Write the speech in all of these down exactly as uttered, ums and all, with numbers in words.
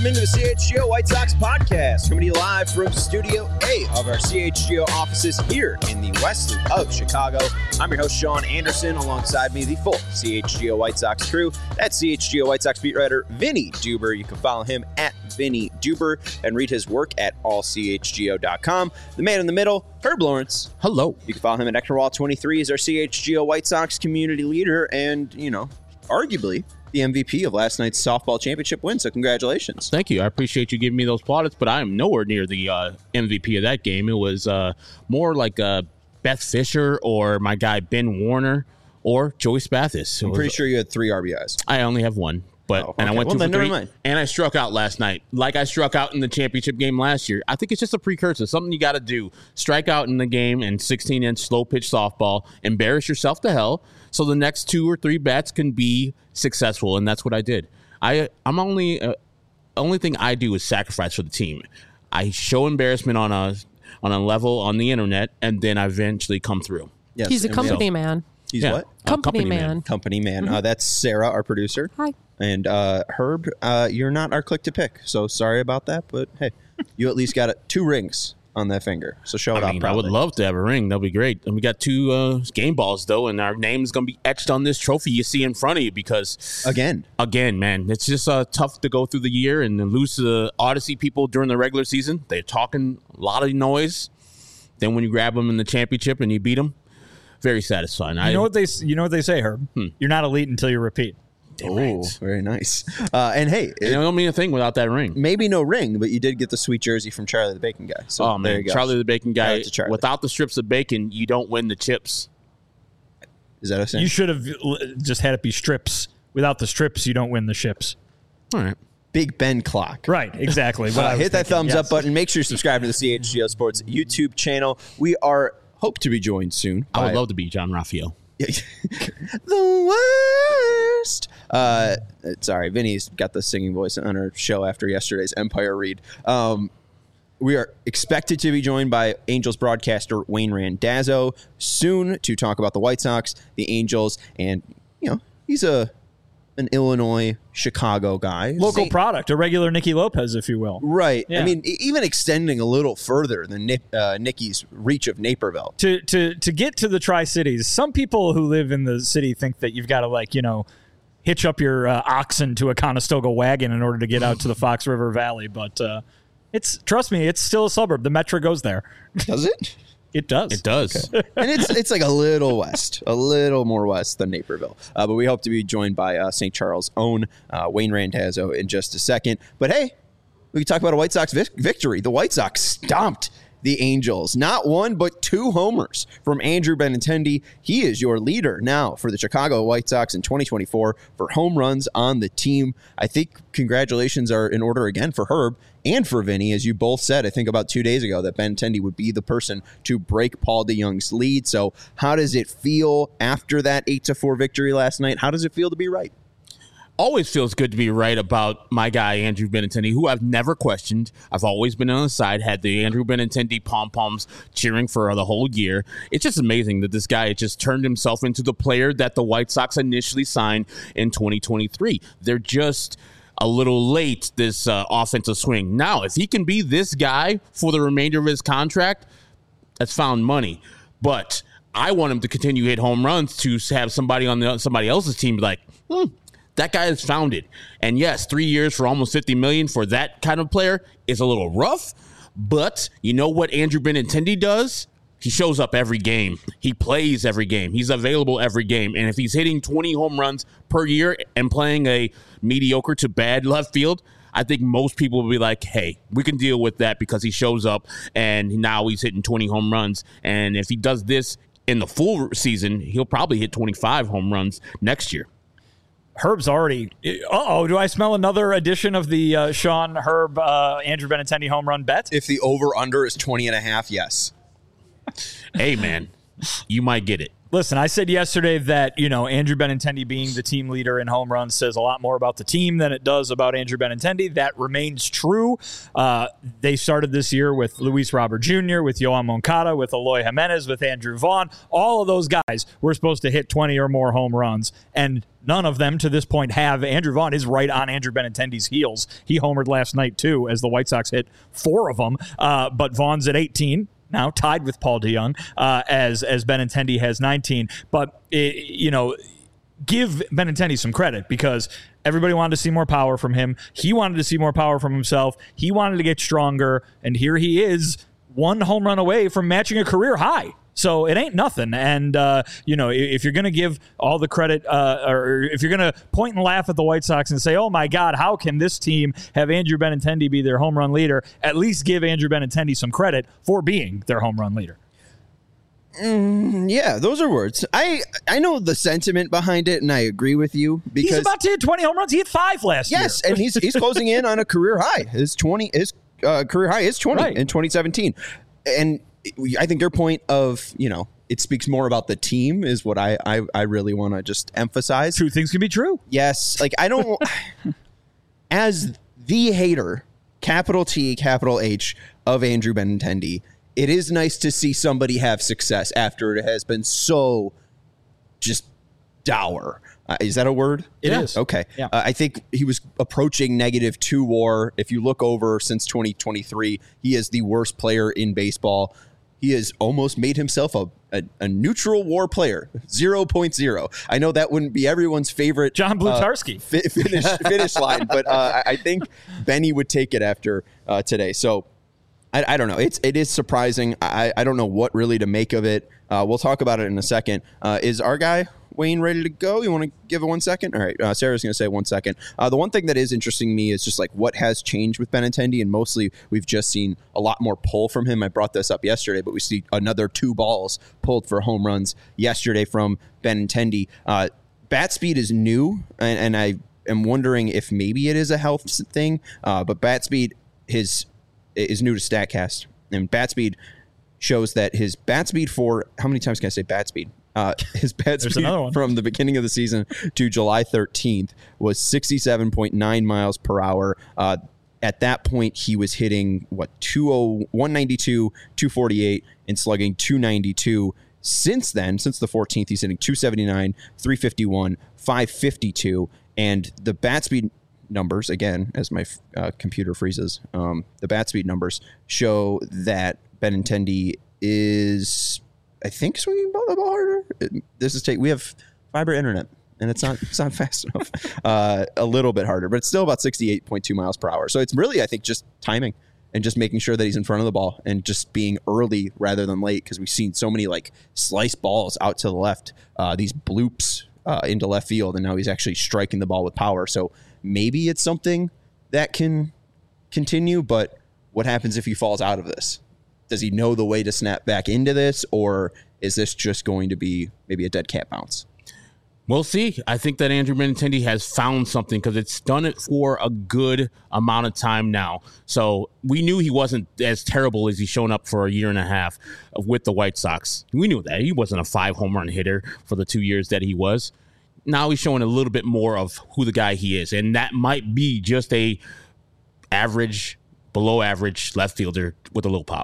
Welcome into the C H G O White Sox podcast, coming to you live from Studio A of our C H G O offices here in the west loop of Chicago. I'm your host, Sean Anderson. Alongside me, the full C H G O White Sox crew. That's C H G O White Sox beat writer Vinny Duber. You can follow him at Vinny Duber and read his work at all c h g o dot com. The man in the middle, Herb Lawrence. Hello. You can follow him at Ector Wall twenty-three. He's our C H G O White Sox community leader and, you know, arguably the M V P of last night's softball championship win, so congratulations. Thank you. I appreciate you giving me those plaudits, but I am nowhere near the uh, M V P of that game. It was uh, more like uh, Beth Fisher or my guy Ben Warner or Joey Spathis. I'm pretty sure you had three R B Is. I only have one. But oh, okay. and I went well, two then for never three, mind. And I struck out last night, like I struck out in the championship game last year. I think it's just a precursor, something you got to do. Strike out in the game and sixteen-inch slow-pitch softball, embarrass yourself to hell, so the next two or three bats can be successful, and that's what I did. I I'm only uh, only thing I do is sacrifice for the team. I show embarrassment on a on a level on the internet, and then I eventually come through. Yes, He's a company so, man. He's yeah, what? Company, company man. man. Company man. Mm-hmm. Uh, that's Sarah, our producer. Hi. And uh, Herb, uh, you're not our click to pick, so sorry about that. But hey, you at least got a, two rings on that finger, so show it I off. mean, proudly. I would love to have a ring. That'd be great. And we got two uh, game balls though, and our name is gonna be etched on this trophy you see in front of you because again, again, man, it's just uh, tough to go through the year and lose to the Odyssey people during the regular season. They're talking a lot of noise. Then when you grab them in the championship and you beat them, very satisfying. You I, know what they you know what they say, Herb? Hmm. You're not elite until you repeat. Oh, right. Very nice. Uh, and hey, it don't mean a thing without that ring. Maybe no ring, but you did get the sweet jersey from Charlie the Bacon Guy. So oh man, Charlie the Bacon Guy. Without the strips of bacon, you don't win the chips. Is that a saying? You should have just had it be strips. Without the strips, you don't win the ships. All right. Big Ben clock. Right, exactly. uh, hit thinking. that thumbs yes. up button. Make sure you subscribe to the C H G O Sports YouTube channel. We are hope to be joined soon. I would love to be John Raphael. The worst. Uh, sorry, Vinny's got the singing voice on our show after yesterday's Empire read. Um, we are expected to be joined by Angels broadcaster Wayne Randazzo soon to talk about the White Sox, the Angels, and you know he's a an Illinois, Chicago guy. Local Saint- product, a regular Nicky Lopez, if you will. Right. Yeah. I mean, even extending a little further than Nick, uh, Nicky's reach of Naperville. To to to get to the Tri-Cities, some people who live in the city think that you've got to, like, you know, hitch up your uh, oxen to a Conestoga wagon in order to get out to the Fox River Valley. But uh, it's trust me, it's still a suburb. The Metro goes there. Does it? It does. It does. Okay. And it's it's like a little west, a little more west than Naperville. Uh, but we hope to be joined by uh, Saint Charles' own uh, Wayne Randazzo in just a second. But hey, we can talk about a White Sox vic- victory. The White Sox stomped the Angels. Not one, but two homers from Andrew Benintendi. He is your leader now for the Chicago White Sox in twenty twenty-four for home runs on the team. I think congratulations are in order again for Herb and for Vinny, as you both said, I think about two days ago, that Benintendi would be the person to break Paul DeJong's lead. So how does it feel after that eight to four victory last night? How does it feel to be right? Always feels good to be right about my guy, Andrew Benintendi, who I've never questioned. I've always been on the side, had the Andrew Benintendi pom-poms cheering for the whole year. It's just amazing that this guy just turned himself into the player that the White Sox initially signed in twenty twenty-three. They're just a little late, this uh, offensive swing. Now, if he can be this guy for the remainder of his contract, that's found money. But I want him to continue to hit home runs to have somebody on the somebody else's team be like, hmm, that guy is found it. And yes, three years for almost fifty million dollars for that kind of player is a little rough. But you know what Andrew Benintendi does? He shows up every game. He plays every game. He's available every game. And if he's hitting twenty home runs per year and playing a mediocre to bad left field, I think most people will be like, hey, we can deal with that because he shows up and now he's hitting twenty home runs. And if he does this in the full season, he'll probably hit twenty-five home runs next year. Herb's already. Uh-oh, do I smell another edition of the uh, Sean Herb uh, Andrew Benintendi home run bet? If the over-under is twenty and a half, yes. Hey, man, you might get it. Listen, I said yesterday that, you know, Andrew Benintendi being the team leader in home runs says a lot more about the team than it does about Andrew Benintendi. That remains true. Uh, they started this year with Luis Robert Junior, with Yoan Moncada, with Eloy Jimenez, with Andrew Vaughn. All of those guys were supposed to hit twenty or more home runs, and none of them to this point have. Andrew Vaughn is right on Andrew Benintendi's heels. He homered last night, too, as the White Sox hit four of them. Uh, but Vaughn's at eighteen. Now tied with Paul DeJong, uh, as as Benintendi has nineteen. But, it, you know, give Benintendi some credit because everybody wanted to see more power from him. He wanted to see more power from himself. He wanted to get stronger. And here he is, one home run away from matching a career high. So it ain't nothing. And, uh, you know, if you're going to give all the credit uh, or if you're going to point and laugh at the White Sox and say, oh, my God, how can this team have Andrew Benintendi be their home run leader? At least give Andrew Benintendi some credit for being their home run leader. Mm, yeah, those are words. I I know the sentiment behind it, and I agree with you. Because he's about to hit twenty home runs. He hit five last yes, year. Yes, and he's he's closing in on a career high. His twenty his uh, career high is twenty right. in twenty seventeen. And I think your point of, you know, it speaks more about the team is what I I, I really want to just emphasize. Two things can be true. Yes. Like, I don't, as the hater, capital T, capital H, of Andrew Benintendi, it is nice to see somebody have success after it has been so just dour. Uh, is that a word? It yeah. is. Okay. Yeah. Uh, I think he was approaching negative two WAR. If you look over since twenty twenty-three, he is the worst player in baseball. He has almost made himself a, a, a neutral WAR player, zero point zero. I know that wouldn't be everyone's favorite John Blutarski uh, fi- finish, finish line, but uh, I think Benny would take it after uh, today. So I, I don't know. It's it is surprising. I, I don't know what really to make of it. Uh, we'll talk about it in a second. Uh, is our guy Wayne ready to go? You want to give it one second? All right. Uh, Sarah's going to say one second. Uh, the one thing that is interesting to me is just like what has changed with Benintendi, and mostly we've just seen a lot more pull from him. I brought this up yesterday, but we see another two balls pulled for home runs yesterday from Benintendi. Uh, bat speed is new, and, and I am wondering if maybe it is a health thing, uh, but bat speed his is new to StatCast, and bat speed shows that his bat speed for how many times can I say bat speed? Uh, his bat speed from the beginning of the season to July thirteenth was sixty-seven point nine miles per hour. Uh, at that point, he was hitting what one ninety-two, two forty-eight, and slugging two ninety-two. Since then, since the fourteenth, he's hitting two seventy-nine, three fifty-one, five fifty-two, and the bat speed numbers, again, as my uh, computer freezes, um, the bat speed numbers show that Benintendi is, I think, swinging the ball harder. This is take. We have fiber internet, and it's not it's not fast enough. Uh, a little bit harder, but it's still about sixty-eight point two miles per hour. So it's really, I think, just timing and just making sure that he's in front of the ball and just being early rather than late, because we've seen so many like slice balls out to the left, uh, these bloops uh, into left field, and now he's actually striking the ball with power. So maybe it's something that can continue, but what happens if he falls out of this? Does he know the way to snap back into this, or is this just going to be maybe a dead cat bounce? We'll see. I think that Andrew Benintendi has found something because it's done it for a good amount of time now. So we knew he wasn't as terrible as he's shown up for a year and a half with the White Sox. We knew that. He wasn't a five home run hitter for the two years that he was. Now he's showing a little bit more of who the guy he is, and that might be just a average, below average left fielder with a little pop.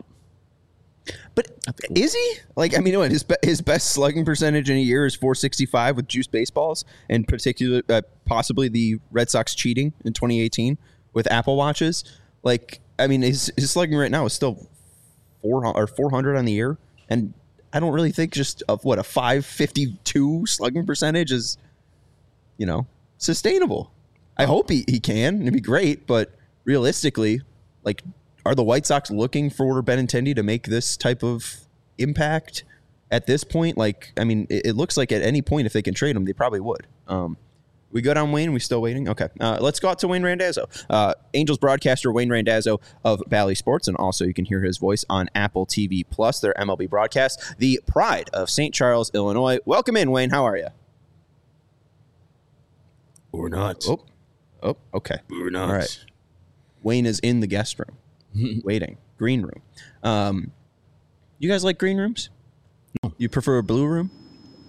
But is he? Like, I mean, what, his his best slugging percentage in a year is four sixty-five with juiced baseballs, and particular, uh, possibly the Red Sox cheating in twenty eighteen with Apple Watches. Like, I mean, his his slugging right now is still four or four hundred on the year, and I don't really think just of what a five fifty-two slugging percentage is, you know, sustainable. I hope he, he can. It'd be great, but realistically, like, are the White Sox looking for Benintendi to make this type of impact at this point? Like, I mean, it, it looks like at any point if they can trade him, they probably would. Um, we good on Wayne? We still waiting? Okay. Uh, let's go out to Wayne Randazzo. Uh, Angels broadcaster Wayne Randazzo of Bally Sports, and also you can hear his voice on Apple T V Plus, their M L B broadcast, the pride of Saint Charles, Illinois. Welcome in, Wayne. How are you? Or not. Oh, oh okay. Or not. All right. Wayne is in the guest room. Waiting. Green room. Um, you guys like green rooms? No. You prefer a blue room?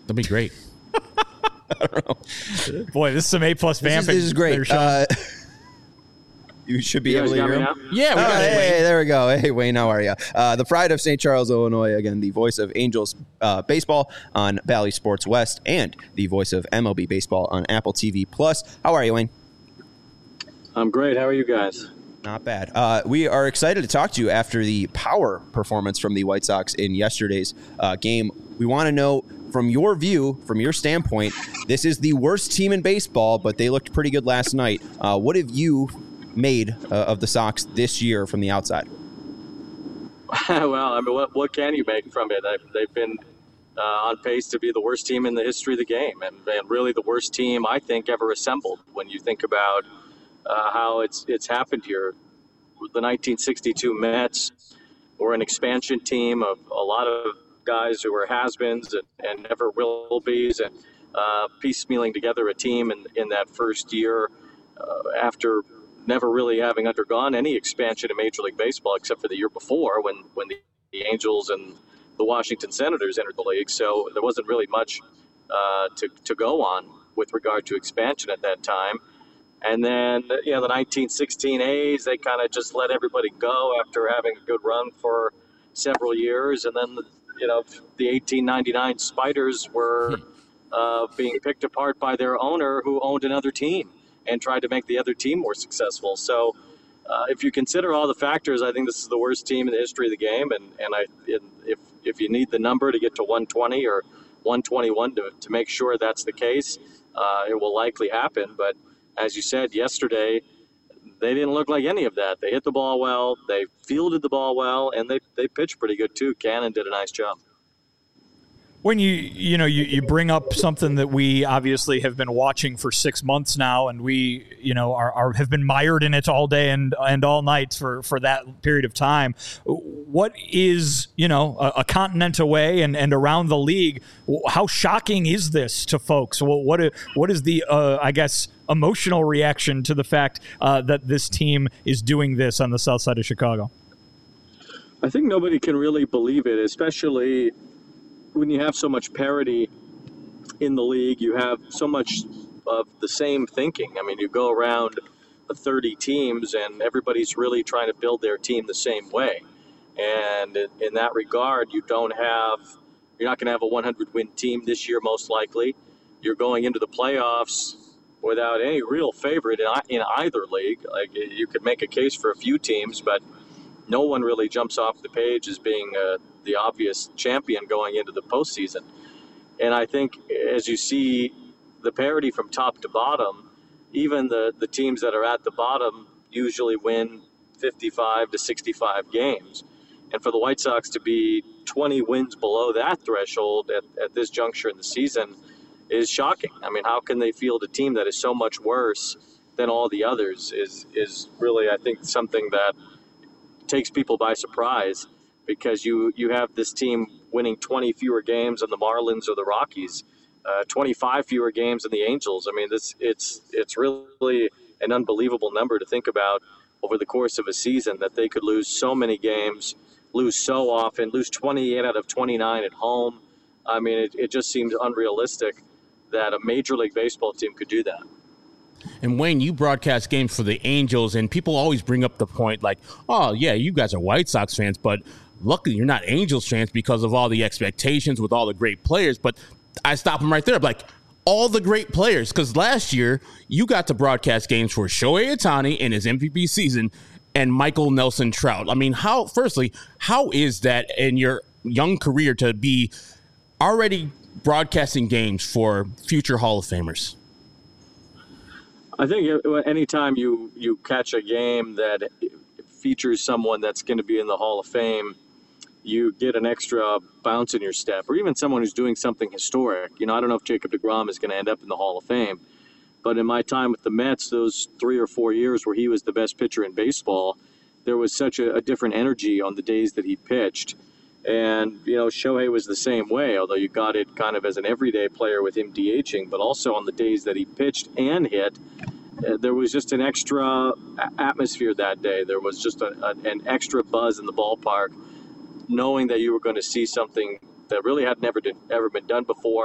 That'd be great. I don't know. Boy, this is some A plus This is, vamping. this is great. there, Sean. Uh, you should be You able guys to got hear me him. now? Yeah, we Oh, got it. hey, Wayne. there we go. Hey, Wayne, how are you? Uh, the pride of Saint Charles, Illinois. Again, the voice of Angels uh, baseball on Bally Sports West, and the voice of M L B baseball on Apple T V Plus. How are you, Wayne? I'm great. How are you guys? Not bad. Uh, we are excited to talk to you after the power performance from the White Sox in yesterday's uh, game. We want to know, from your view, from your standpoint, this is the worst team in baseball, but they looked pretty good last night. Uh, what have you made uh, of the Sox this year from the outside? Well, I mean, what, what can you make from it? I've, they've been uh, on pace to be the worst team in the history of the game, and, and really the worst team, I think, ever assembled. When you think about uh, how it's it's happened here, the nineteen sixty-two Mets were an expansion team of a lot of guys who were has-beens and, and never will-be's, and uh, piecemealing together a team in, in that first year uh, after never really having undergone any expansion in Major League Baseball except for the year before when, when the, the Angels and the Washington Senators entered the league. So there wasn't really much uh, to, to go on with regard to expansion at that time. And then, you know, the nineteen sixteen A's, they kind of just let everybody go after having a good run for several years. And then, you know, the eighteen ninety-nine Spiders were uh, being picked apart by their owner who owned another team and tried to make the other team more successful. So uh, if you consider all the factors, I think this is the worst team in the history of the game. And, and I, if, if you need the number to get to one twenty or one twenty-one to, to make sure that's the case, uh, it will likely happen. But as you said yesterday, they didn't look like any of that. They hit the ball well, they fielded the ball well, and they, they pitched pretty good too. Cannon did a nice job. When you you know you, you bring up something that we obviously have been watching for six months now, and we you know are, are have been mired in it all day and and all night for, for that period of time. What is you know a, a continent away and, and around the league? How shocking is this to folks? What what, what is the uh, I guess emotional reaction to the fact uh, that this team is doing this on the south side of Chicago? I think nobody can really believe it, especially when you have so much parity in the league. You have so much of the same thinking. I mean, you go around the thirty teams and everybody's really trying to build their team the same way. And in that regard, you don't have, you're not going to have a one hundred win team this year, most likely. You're going into the playoffs without any real favorite in, in either league. Like, you could make a case for a few teams, but no one really jumps off the page as being uh, the obvious champion going into the postseason. And I think as you see the parity from top to bottom, even the, the teams that are at the bottom usually win fifty-five to sixty-five games. And for the White Sox to be twenty wins below that threshold at, at this juncture in the season is shocking. I mean, how can they field a team that is so much worse than all the others is, is really, I think, something that takes people by surprise, because you, you have this team winning twenty fewer games than the Marlins or the Rockies, uh, twenty-five fewer games than the Angels. I mean, this it's it's really an unbelievable number to think about over the course of a season, that they could lose so many games, lose so often, lose twenty-eight out of twenty-nine at home. I mean, it, it just seems unrealistic that a Major League Baseball team could do that. And Wayne, you broadcast games for the Angels, and people always bring up the point like, oh, yeah, you guys are White Sox fans, but luckily you're not Angels fans because of all the expectations with all the great players. But I stop them right there. Like, all the great players, because last year you got to broadcast games for Shohei Ohtani in his M V P season and Michael Nelson Trout. I mean, how, firstly, how is that in your young career to be already broadcasting games for future Hall of Famers? I think anytime you, you catch a game that features someone that's going to be in the Hall of Fame, you get an extra bounce in your step, or even someone who's doing something historic. You know, I don't know if Jacob deGrom is going to end up in the Hall of Fame, but in my time with the Mets, those three or four years where he was the best pitcher in baseball, there was such a, a different energy on the days that he pitched. And, you know, Shohei was the same way, although you got it kind of as an everyday player with him DHing, but also on the days that he pitched and hit, uh, there was just an extra atmosphere that day. There was just a, a, an extra buzz in the ballpark, knowing that you were going to see something that really had never did, ever been done before,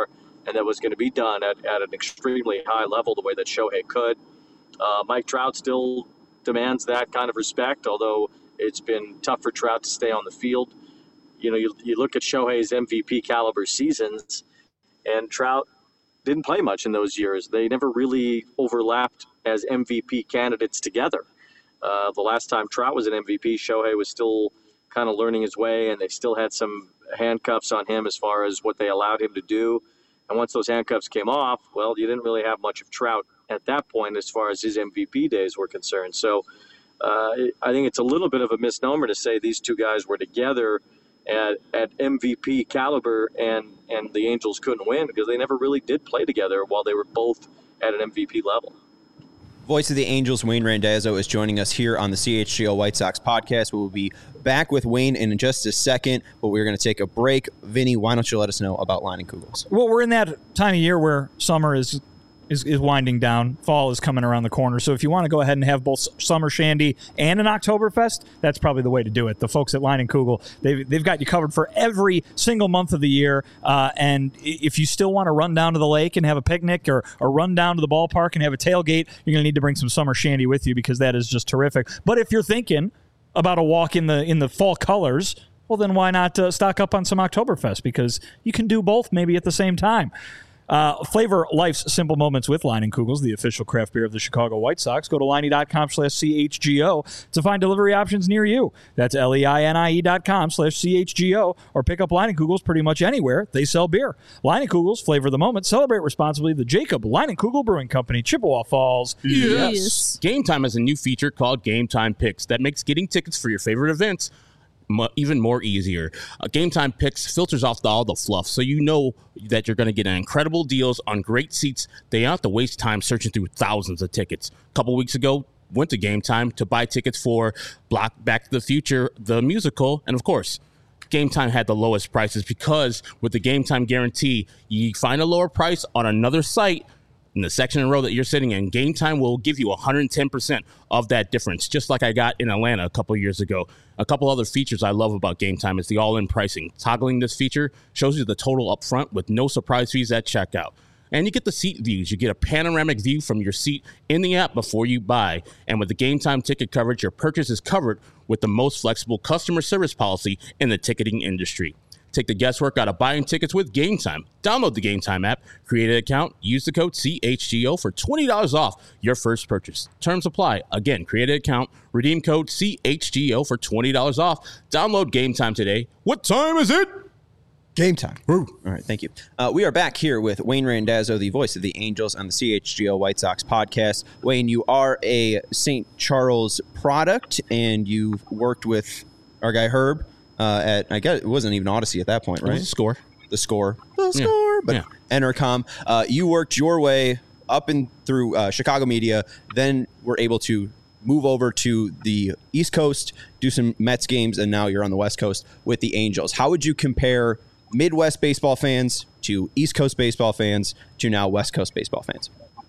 and that was going to be done at, at an extremely high level the way that Shohei could. Uh, Mike Trout still demands that kind of respect, although it's been tough for Trout to stay on the field. You know, you, you look at Shohei's M V P caliber seasons, and Trout didn't play much in those years. They never really overlapped as M V P candidates together. Uh, the last time Trout was an M V P, Shohei was still kind of learning his way, and they still had some handcuffs on him as far as what they allowed him to do. And once those handcuffs came off, well, you didn't really have much of Trout at that point as far as his M V P days were concerned. So uh, I think it's a little bit of a misnomer to say these two guys were together at, at M V P caliber and, and the Angels couldn't win, because they never really did play together while they were both at an M V P level. Voice of the Angels, Wayne Randazzo, is joining us here on the C H G O White Sox podcast. We will be back with Wayne in just a second, but we're going to take a break. Vinny, why don't you let us know about Leinenkugels? Well, we're in that time of year where summer is Is, is winding down. Fall is coming around the corner. So if you want to go ahead and have both Summer Shandy and an Oktoberfest, that's probably the way to do it. The folks at Leinenkugel, they've, they've got you covered for every single month of the year. Uh, and if you still want to run down to the lake and have a picnic, or, or run down to the ballpark and have a tailgate, you're going to need to bring some Summer Shandy with you, because that is just terrific. But if you're thinking about a walk in the in the fall colors, well, then why not uh, stock up on some Oktoberfest? Because you can do both maybe at the same time. Uh, flavor life's simple moments with Leinenkugels, the official craft beer of the Chicago White Sox. Go to Leinie.com slash CHGO to find delivery options near you. That's L-E-I-N-I-E dot com slash C-H-G-O, or pick up Leinenkugels pretty much anywhere they sell beer. Leinenkugels, flavor the moment. Celebrate responsibly. The Jacob Leinenkugel Brewing Company, Chippewa Falls. Yes. yes. Game Time has a new feature called Game Time Picks that makes getting tickets for your favorite events even more easier. Uh, Game Time Picks filters off the, all the fluff, so you know that you're going to get incredible deals on great seats. They don't have to waste time searching through thousands of tickets. A couple weeks ago, went to Game Time to buy tickets for Black Back to the Future, the musical, and of course, Game Time had the lowest prices, because with the Game Time guarantee, you find a lower price on another site in the section and row that you're sitting in, Game Time will give you one hundred ten percent of that difference, just like I got in Atlanta a couple years ago. A couple other features I love about Game Time is the all-in pricing. Toggling this feature shows you the total up front with no surprise fees at checkout. And you get the seat views. You get a panoramic view from your seat in the app before you buy. And with the Game Time ticket coverage, your purchase is covered with the most flexible customer service policy in the ticketing industry. Take the guesswork out of buying tickets with Game Time. Download the Game Time app, create an account, use the code C H G O for twenty dollars off your first purchase. Terms apply. Again, create an account, redeem code C H G O for twenty dollars off. Download Game Time today. What time is it? Game time. Woo. All right, thank you. Uh, we are back here with Wayne Randazzo, the voice of the Angels on the C H G O White Sox podcast. Wayne, you are a Saint Charles product, and you've worked with our guy Herb uh, at, I guess it wasn't even Odyssey at that point, right? It was a score. The score. The Yeah. score. But Yeah. Entercom. Uh, you worked your way up and through uh, Chicago media, then were able to move over to the East Coast, do some Mets games, and now you're on the West Coast with the Angels. How would you compare Midwest baseball fans to East Coast baseball fans to now West Coast baseball fans?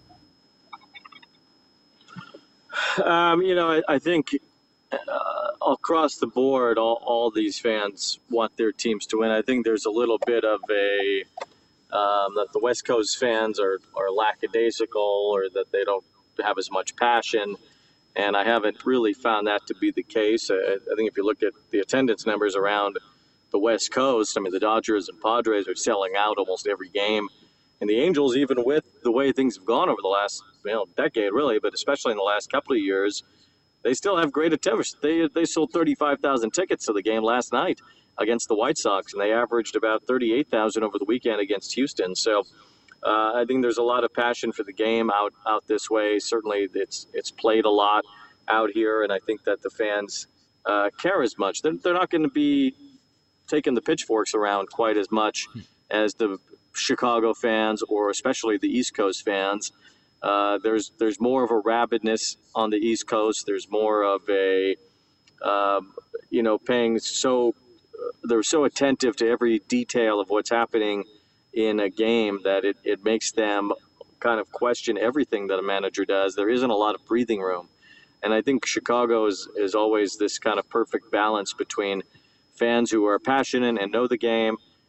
Um, you know, I, I think uh, across the board, all, all these fans want their teams to win. I think there's a little bit of a um, that the West Coast fans are, are lackadaisical, or that they don't have as much passion. And I haven't really found that to be the case. I, I think if you look at the attendance numbers around the West Coast, I mean, the Dodgers and Padres are selling out almost every game. And the Angels, even with the way things have gone over the last you know, decade, really, but especially in the last couple of years, they still have great attendance. They they sold thirty-five thousand tickets to the game last night against the White Sox, and they averaged about thirty-eight thousand over the weekend against Houston. So uh, I think there's a lot of passion for the game out, out this way. Certainly it's it's played a lot out here, and I think that the fans uh, care as much. They're, they're not going to be taking the pitchforks around quite as much as the Chicago fans, or especially the East Coast fans. Uh, there's there's more of a rabidness on the East Coast. There's more of a, um, you know, paying so, uh, they're so attentive to every detail of what's happening in a game that it, it makes them kind of question everything that a manager does. There isn't a lot of breathing room. And I think Chicago is, is always this kind of perfect balance between fans who are passionate and know the game,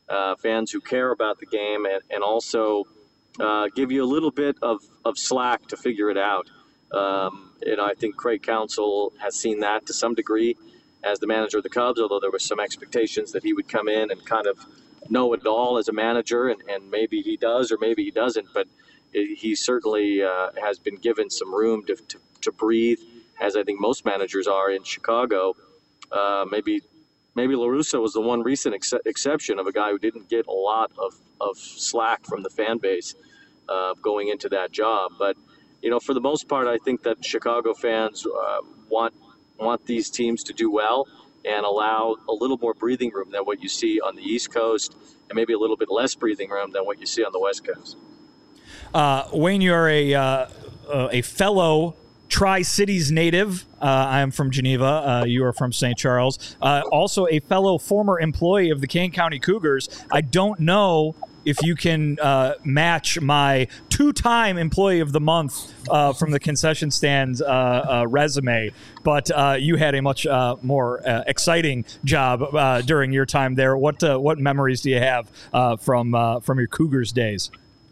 uh, fans who care about the game, and, and also uh, give you a little bit of, of slack to figure it out. Um, and I think Craig Counsell has seen that to some degree as the manager of the Cubs, although there were some expectations that he would come in and kind of know it all as a manager, and, and maybe he does or maybe he doesn't, but it, he certainly uh, has been given some room to, to, to breathe, as I think most managers are in Chicago. Uh, maybe maybe La Russa was the one recent ex- exception of a guy who didn't get a lot of, of slack from the fan base uh, going into that job. But, you know, for the most part, I think that Chicago fans uh, want want these teams to do well and allow a little more breathing room than what you see on the East Coast, and maybe a little bit less breathing room than what you see on the West Coast. Uh, Wayne, you're a uh, uh, a fellow Tri-Cities native. Uh, I am from Geneva. Uh, you are from Saint Charles. Uh, also a fellow former employee of the Kane County Cougars. I don't know if you can uh, match my two-time Employee of the Month uh, from the concession stand uh, uh, resume, but uh, you had a much uh, more uh, exciting job uh, during your time there. What uh, what memories do you have uh, from uh, from your Cougars days?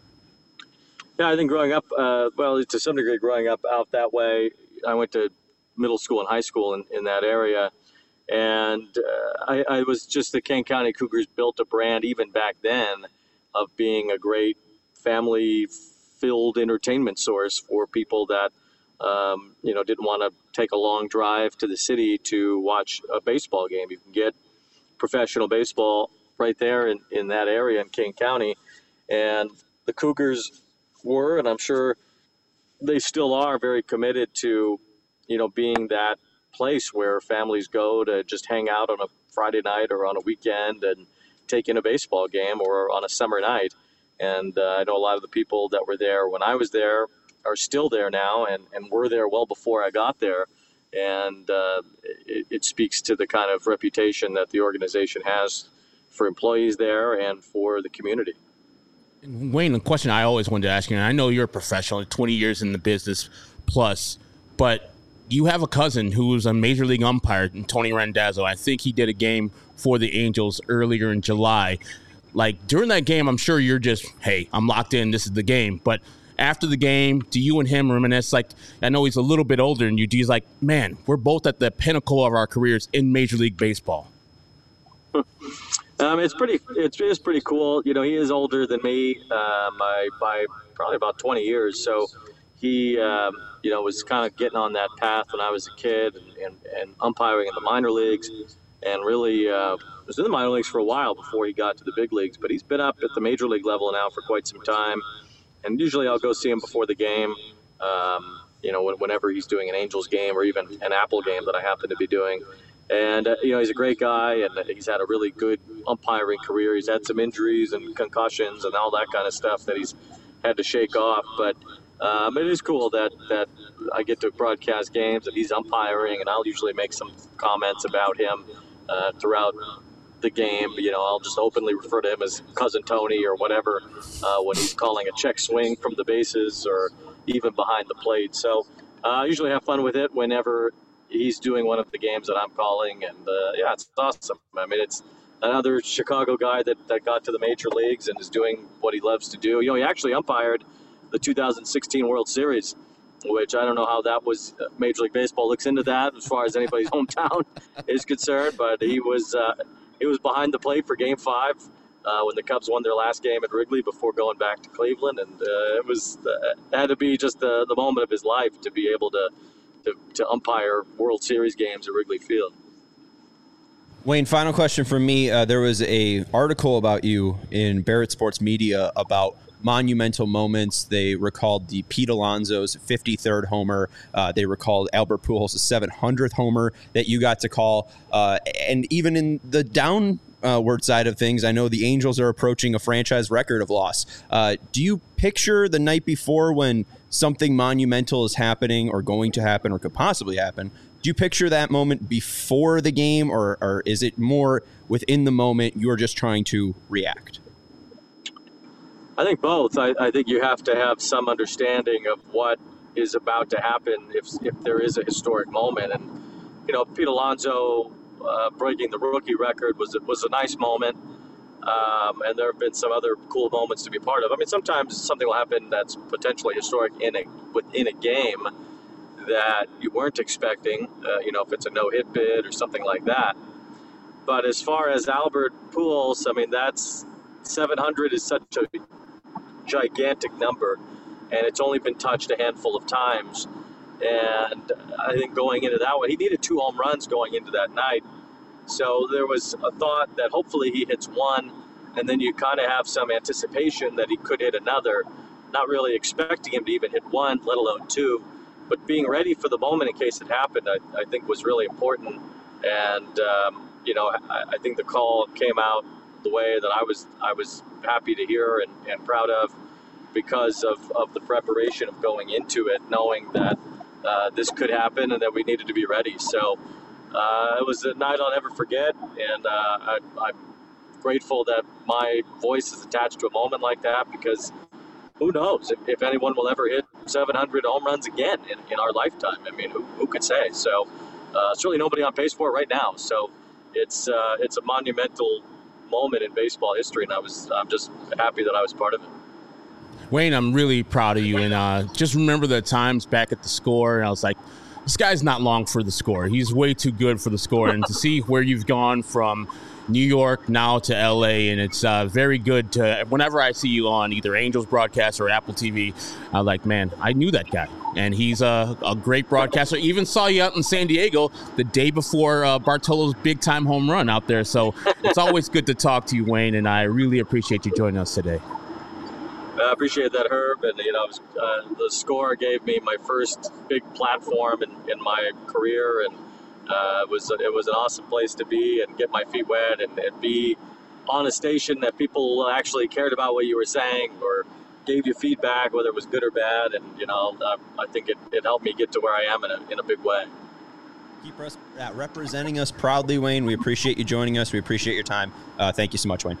Yeah, I think growing up, uh, well, to some degree, growing up out that way, I went to middle school and high school in, in that area. And uh, I, I was just the Kane County Cougars built a brand even back then of being a great family-filled entertainment source for people that, um, you know, didn't want to take a long drive to the city to watch a baseball game. You can get professional baseball right there in, in that area in Kane County. And the Cougars were, and I'm sure they still are, very committed to, you know, being that place where families go to just hang out on a Friday night or on a weekend and take in a baseball game or on a summer night. And uh, I know a lot of the people that were there when I was there are still there now and, and were there well before I got there. And uh, it, it speaks to the kind of reputation that the organization has for employees there and for the community. Wayne, the question I always wanted to ask you, and I know you're a professional, twenty years in the business plus, but you have a cousin who's a major league umpire, Tony Randazzo. I think he did a game for the Angels earlier in July. Like, during that game, I'm sure you're just, hey, I'm locked in, this is the game. But after the game, do you and him reminisce? Like, I know he's a little bit older than you. Do you like, man, we're both at the pinnacle of our careers in Major League Baseball? Um, it's pretty. It's, it's pretty cool. You know, he is older than me um, by, by probably about twenty years. So he, um, you know, was kind of getting on that path when I was a kid and, and, and umpiring in the minor leagues, and really uh, was in the minor leagues for a while before he got to the big leagues. But he's been up at the major league level now for quite some time. And usually I'll go see him before the game. Um, you know, whenever he's doing an Angels game or even an Apple game that I happen to be doing. And, uh, you know, he's a great guy, and he's had a really good umpiring career. He's had some injuries and concussions and all that kind of stuff that he's had to shake off. But um, it is cool that, that I get to broadcast games and he's umpiring, and I'll usually make some comments about him uh, throughout the game. You know, I'll just openly refer to him as Cousin Tony or whatever uh, when he's calling a check swing from the bases or even behind the plate. So uh, I usually have fun with it whenever he's doing one of the games that I'm calling, and uh, yeah, it's awesome. I mean, it's another Chicago guy that, that got to the major leagues and is doing what he loves to do. You know, he actually umpired the two thousand sixteen World Series, which I don't know how that was. Uh, Major League Baseball looks into that as far as anybody's hometown is concerned, but he was uh, he was behind the plate for Game Five uh, when the Cubs won their last game at Wrigley before going back to Cleveland, and uh, it was uh, it had to be just the the moment of his life to be able to. To, to umpire World Series games at Wrigley Field. Wayne, final question from me. Uh, there was a article about you in Barrett Sports Media about monumental moments. They recalled the Pete Alonso's fifty-third homer. Uh, they recalled Albert Pujols' seven hundredth homer that you got to call. Uh, and even in the down Uh, word side of things, I know the Angels are approaching a franchise record of loss. Uh, do you picture the night before when something monumental is happening or going to happen or could possibly happen? Do you picture that moment before the game, or, or is it more within the moment you're just trying to react? I think both. I, I think you have to have some understanding of what is about to happen if if there is a historic moment. And, you know, Pete Alonso Uh, breaking the rookie record was was a nice moment. Um, and there have been some other cool moments to be part of. I mean, sometimes something will happen that's potentially historic in a within a game that you weren't expecting. Uh, you know, if it's a no-hit bid or something like that. But as far as Albert Pujols, I mean, that's seven hundred is such a gigantic number, and it's only been touched a handful of times. And I think going into that one, he needed two home runs going into that night. So there was a thought that hopefully he hits one, and then you kind of have some anticipation that he could hit another, not really expecting him to even hit one, let alone two. But being ready for the moment in case it happened, I, I think was really important. And, um, you know, I, I think the call came out the way that I was I was happy to hear and, and proud of because of, of the preparation of going into it, knowing that uh, this could happen and that we needed to be ready. So uh, it was a night I'll never forget, and uh, I, I'm grateful that my voice is attached to a moment like that, because who knows if, if anyone will ever hit seven hundred home runs again in, in our lifetime. I mean, who, who could say? So uh, certainly nobody on pace for it right now. So it's uh, it's a monumental moment in baseball history, and I was I'm just happy that I was part of it. Wayne, I'm really proud of you, and uh, just remember the times back at the Score, and I was like, this guy's not long for the Score. He's way too good for the Score, and to see where you've gone from New York now to L A, and it's uh, very good to, whenever I see you on either Angels broadcast or Apple T V, I'm like, man, I knew that guy, and he's a, a great broadcaster. Even saw you out in San Diego the day before uh, Bartolo's big-time home run out there, so it's always good to talk to you, Wayne, and I really appreciate you joining us today. I appreciate that, Herb, and you know, uh, the Score gave me my first big platform in, in my career, and uh, it was it was an awesome place to be and get my feet wet and, and be on a station that people actually cared about what you were saying or gave you feedback, whether it was good or bad, and you know, I, I think it, it helped me get to where I am in a in a big way. Keep res- uh, representing us proudly, Wayne. We appreciate you joining us. We appreciate your time. Uh, thank you so much, Wayne.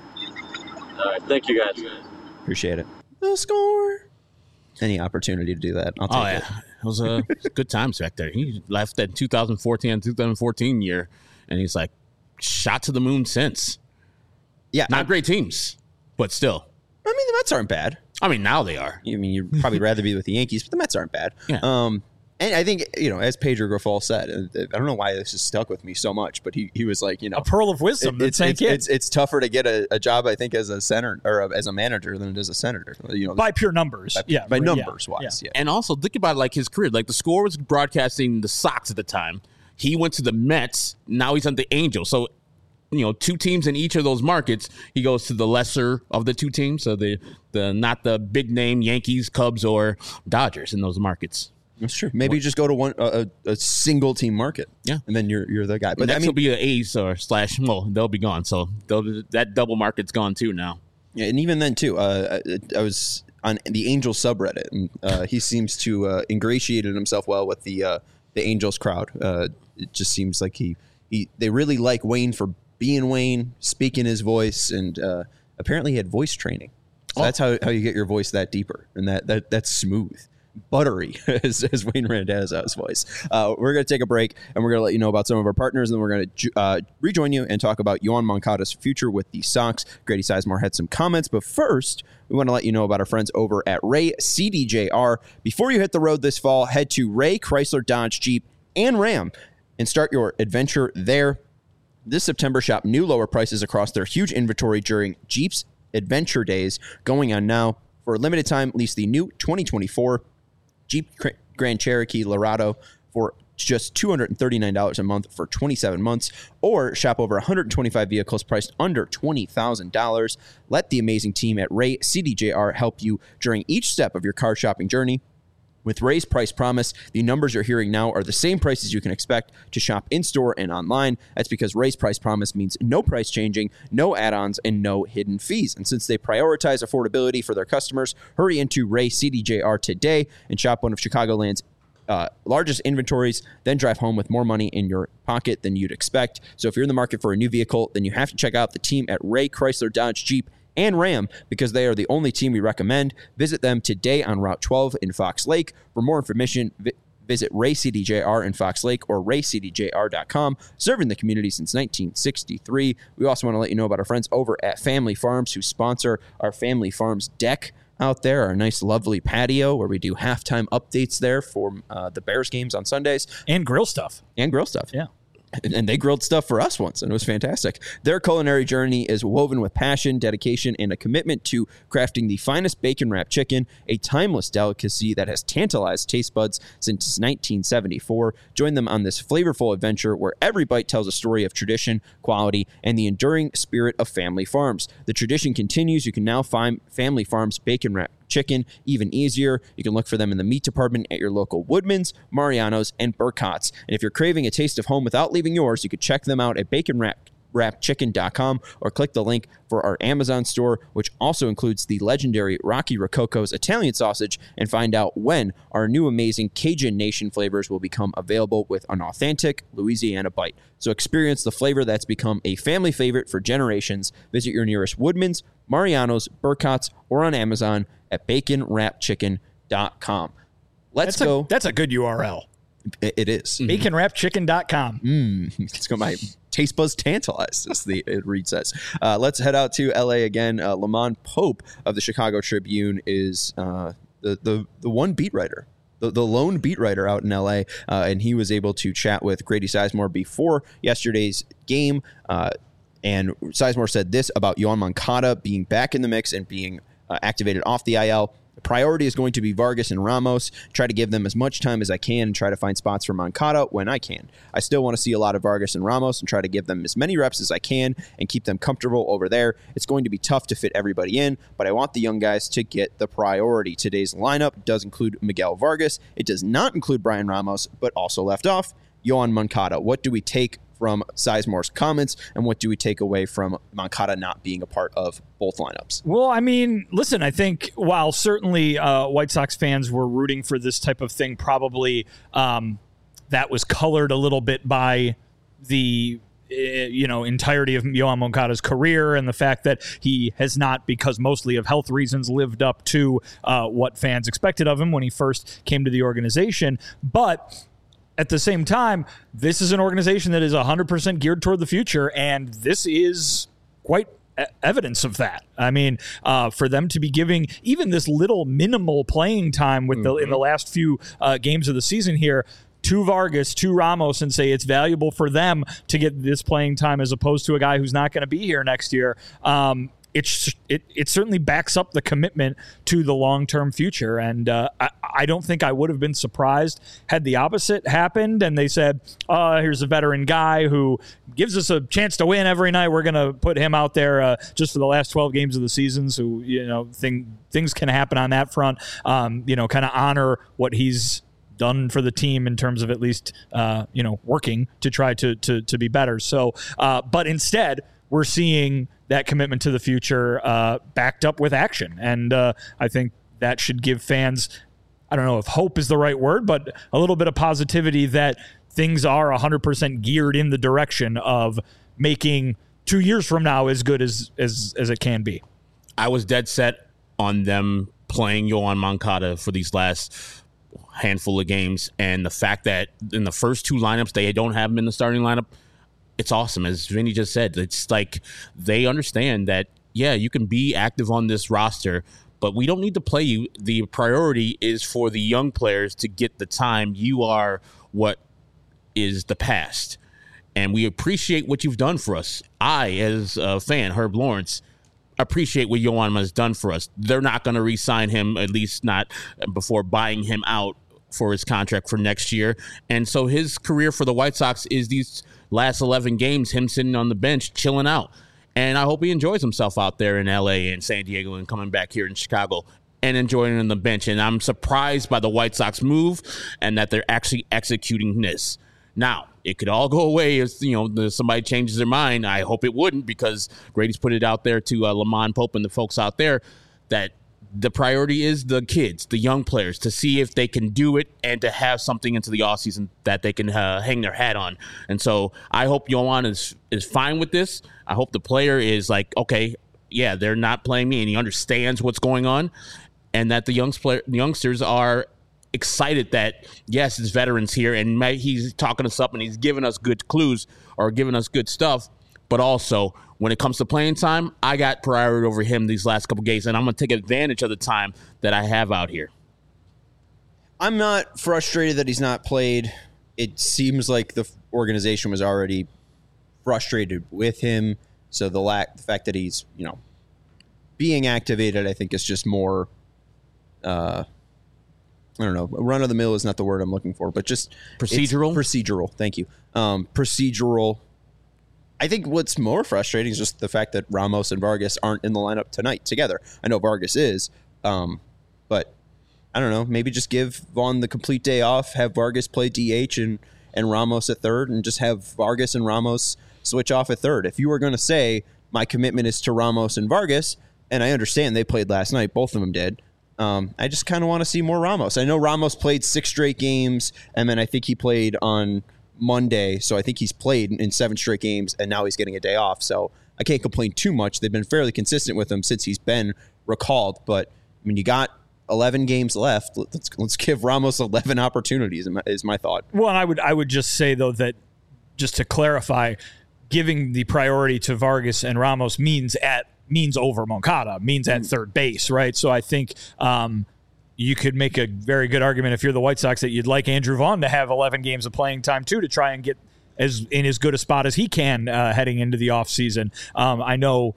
All right, thank you guys. Appreciate it. The Score. Any opportunity to do that, I'll take oh, yeah. it. It was a good times back there. He left that two thousand fourteen and two thousand fourteen year, and he's like, shot to the moon since. Yeah. Not I, great teams, but still. I mean, the Mets aren't bad. I mean, now they are. I mean, you'd probably rather be with the Yankees, but the Mets aren't bad. Yeah. Um, and I think, you know, as Pedro Grifol said, I don't know why this has stuck with me so much, but he, he was like, you know, A pearl of wisdom. it- it's, that it's, sank in. it's it's tougher to get a, a job, I think, as a center or a, as a manager than it is a senator. You know, by pure numbers. by, yeah. by yeah, numbers yeah. wise. Yeah. And also, think about like his career. Like the Score was broadcasting the Sox at the time. He went to the Mets. Now he's on the Angels. So, you know, two teams in each of those markets. He goes to the lesser of the two teams. So the the not the big name Yankees, Cubs, or Dodgers in those markets. That's true. Maybe you just go to one a, a single team market. Yeah. And then you're you're the guy. But But I next mean, will be an A's or slash. Well, they'll be gone. So they'll, that double market's gone too now. yeah, and even then too, uh, I, I was on the Angels subreddit, and uh, he seems to uh, ingratiated himself well with the uh, the Angels crowd. Uh, it just seems like he he they really like Wayne for being Wayne, speaking his voice, and uh, apparently he had voice training. So Oh. that's how, how you get your voice that deeper, and that that that's smooth. Buttery, as, as Wayne Randazzo's voice. Uh, we're going to take a break, and we're going to let you know about some of our partners, and then we're going to uh, rejoin you and talk about Yoan Moncada's future with the Sox. Grady Sizemore had some comments, but first, we want to let you know about our friends over at Ray C D J R. Before you hit the road this fall, head to Ray Chrysler Dodge Jeep and Ram and start your adventure there. This September, shop new lower prices across their huge inventory during Jeep's Adventure Days going on now. For a limited time, lease the new twenty twenty-four Jeep Grand Cherokee Laredo for just two hundred thirty-nine dollars a month for twenty-seven months, or shop over one hundred twenty-five vehicles priced under twenty thousand dollars. Let the amazing team at Ray C D J R help you during each step of your car shopping journey. With Ray's Price Promise, the numbers you're hearing now are the same prices you can expect to shop in-store and online. That's because Ray's Price Promise means no price changing, no add-ons, and no hidden fees. And since they prioritize affordability for their customers, hurry into Ray C D J R today and shop one of Chicagoland's uh, largest inventories, then drive home with more money in your pocket than you'd expect. So if you're in the market for a new vehicle, then you have to check out the team at Ray Chrysler Dodge Jeep and Ram, because they are the only team we recommend. Visit them today on Route twelve in Fox Lake. For more information, vi- Visit Ray C D J R in Fox Lake or ray c d j r dot com, serving the community since nineteen sixty-three. We also want to let you know about our friends over at Family Farms who sponsor our Family Farms deck out there, our nice, lovely patio where we do halftime updates there for uh, the Bears games on Sundays. And grill stuff. And grill stuff. Yeah. And they grilled stuff for us once, and it was fantastic. Their culinary journey is woven with passion, dedication, and a commitment to crafting the finest bacon wrapped chicken, a timeless delicacy that has tantalized taste buds since nineteen seventy-four. Join them on this flavorful adventure where every bite tells a story of tradition, quality, and the enduring spirit of Family Farms. The tradition continues. You can now find Family Farms bacon wrapped chicken even easier. You can look for them in the meat department at your local Woodman's, Mariano's, and Burkott's. And if you're craving a taste of home without leaving yours, you could check them out at bacon wrap wrap chicken dot com or click the link for our Amazon store, which also includes the legendary Rocky Rococo's Italian sausage, and find out when our new amazing Cajun Nation flavors will become available with an authentic Louisiana bite. So experience the flavor that's become a family favorite for generations. Visit your nearest Woodman's, Mariano's, Burkott's, or on Amazon at bacon wrap chicken dot com. Let's that's go. A, that's a good U R L. It, it is. bacon wrap chicken dot com. Mm, it's got my taste buds tantalized, as the it read says. Uh, let's head out to L A again. Uh, Lamont Pope of the Chicago Tribune is uh, the, the, the one beat writer. The, the lone beat writer out in L A, uh, and he was able to chat with Grady Sizemore before yesterday's game. Uh, and Sizemore said this about Yoan Moncada being back in the mix and being uh, activated off the I L. The priority is going to be Vargas and Ramos. Try to give them as much time as I can and try to find spots for Moncada when I can. I still want to see a lot of Vargas and Ramos and try to give them as many reps as I can and keep them comfortable over there. It's going to be tough to fit everybody in, but I want the young guys to get the priority. Today's lineup does include Miguel Vargas. It does not include Brian Ramos, but also left off Yoan Moncada. What do we take from Sizemore's comments, and what do we take away from Moncada not being a part of both lineups? Well, I mean, listen, I think while certainly uh, White Sox fans were rooting for this type of thing, probably um, that was colored a little bit by the uh, you know entirety of Yoan Moncada's career and the fact that he has not, because mostly of health reasons, lived up to uh, what fans expected of him when he first came to the organization. But at the same time, this is an organization that is one hundred percent geared toward the future, and this is quite e- evidence of that. I mean, uh, for them to be giving even this little minimal playing time with the, in the last few uh, games of the season here to Vargas, to Ramos, and say it's valuable for them to get this playing time as opposed to a guy who's not going to be here next year. Um, It's it it certainly backs up the commitment to the long-term future, and uh, I, I don't think I would have been surprised had the opposite happened and they said, uh, here's a veteran guy who gives us a chance to win every night. We're going to put him out there uh, just for the last twelve games of the season, so you know thing, things can happen on that front. Um, you know, kind of honor what he's done for the team in terms of at least uh, you know working to try to to to be better. So, uh, but instead, we're seeing that commitment to the future uh, backed up with action. And uh, I think that should give fans, I don't know if hope is the right word, but a little bit of positivity that things are one hundred percent geared in the direction of making two years from now as good as, as, as it can be. I was dead set on them playing Yoan Moncada for these last handful of games. And the fact that in the first two lineups, they don't have him in the starting lineup, it's awesome. As Vinny just said, it's like they understand that, yeah, you can be active on this roster, but we don't need to play you. The priority is for the young players to get the time. You are what is the past, and we appreciate what you've done for us. I, as a fan, Herb Lawrence, appreciate what Yoan has done for us. They're not going to re-sign him, at least not before buying him out for his contract for next year. And so his career for the White Sox is these last eleven games, him sitting on the bench, chilling out. And I hope he enjoys himself out there in L A and San Diego and coming back here in Chicago and enjoying on the bench. And I'm surprised by the White Sox move and that they're actually executing this. Now, it could all go away if, you know, somebody changes their mind. I hope it wouldn't, because Grady's put it out there to uh, Lamont Pope and the folks out there that the priority is the kids, the young players, to see if they can do it and to have something into the offseason that they can uh, hang their hat on. And so I hope Yoan is, is fine with this. I hope the player is like, okay, yeah, they're not playing me, and he understands what's going on, and that the young player, the youngsters are excited that, yes, it's veterans here, and he's talking us up and he's giving us good clues or giving us good stuff. But also, when it comes to playing time, I got priority over him these last couple games, and I'm going to take advantage of the time that I have out here. I'm not frustrated that he's not played. It seems like the organization was already frustrated with him. So the lack, the fact that he's, you know, being activated, I think is just more, uh, I don't know, run of the mill is not the word I'm looking for, but just procedural. Procedural. Thank you. Um, procedural. I think what's more frustrating is just the fact that Ramos and Vargas aren't in the lineup tonight together. I know Vargas is, um, but I don't know. Maybe just give Vaughn the complete day off, have Vargas play D H and, and Ramos at third, and just have Vargas and Ramos switch off at third. If you were going to say my commitment is to Ramos and Vargas, and I understand they played last night, both of them did, um, I just kind of want to see more Ramos. I know Ramos played six straight games, and then I think he played on Monday, so I think he's played in seven straight games, and now he's getting a day off. So I can't complain too much. They've been fairly consistent with him since he's been recalled. But I mean, you got eleven games left. Let's let's give Ramos eleven opportunities. Is my thought. Well, and I would I would just say though that just to clarify, giving the priority to Vargas and Ramos means at means over Moncada, means at third base, right? So I think. Um, You could make a very good argument if you're the White Sox that you'd like Andrew Vaughn to have eleven games of playing time too to try and get as in as good a spot as he can uh, heading into the offseason. Um, I know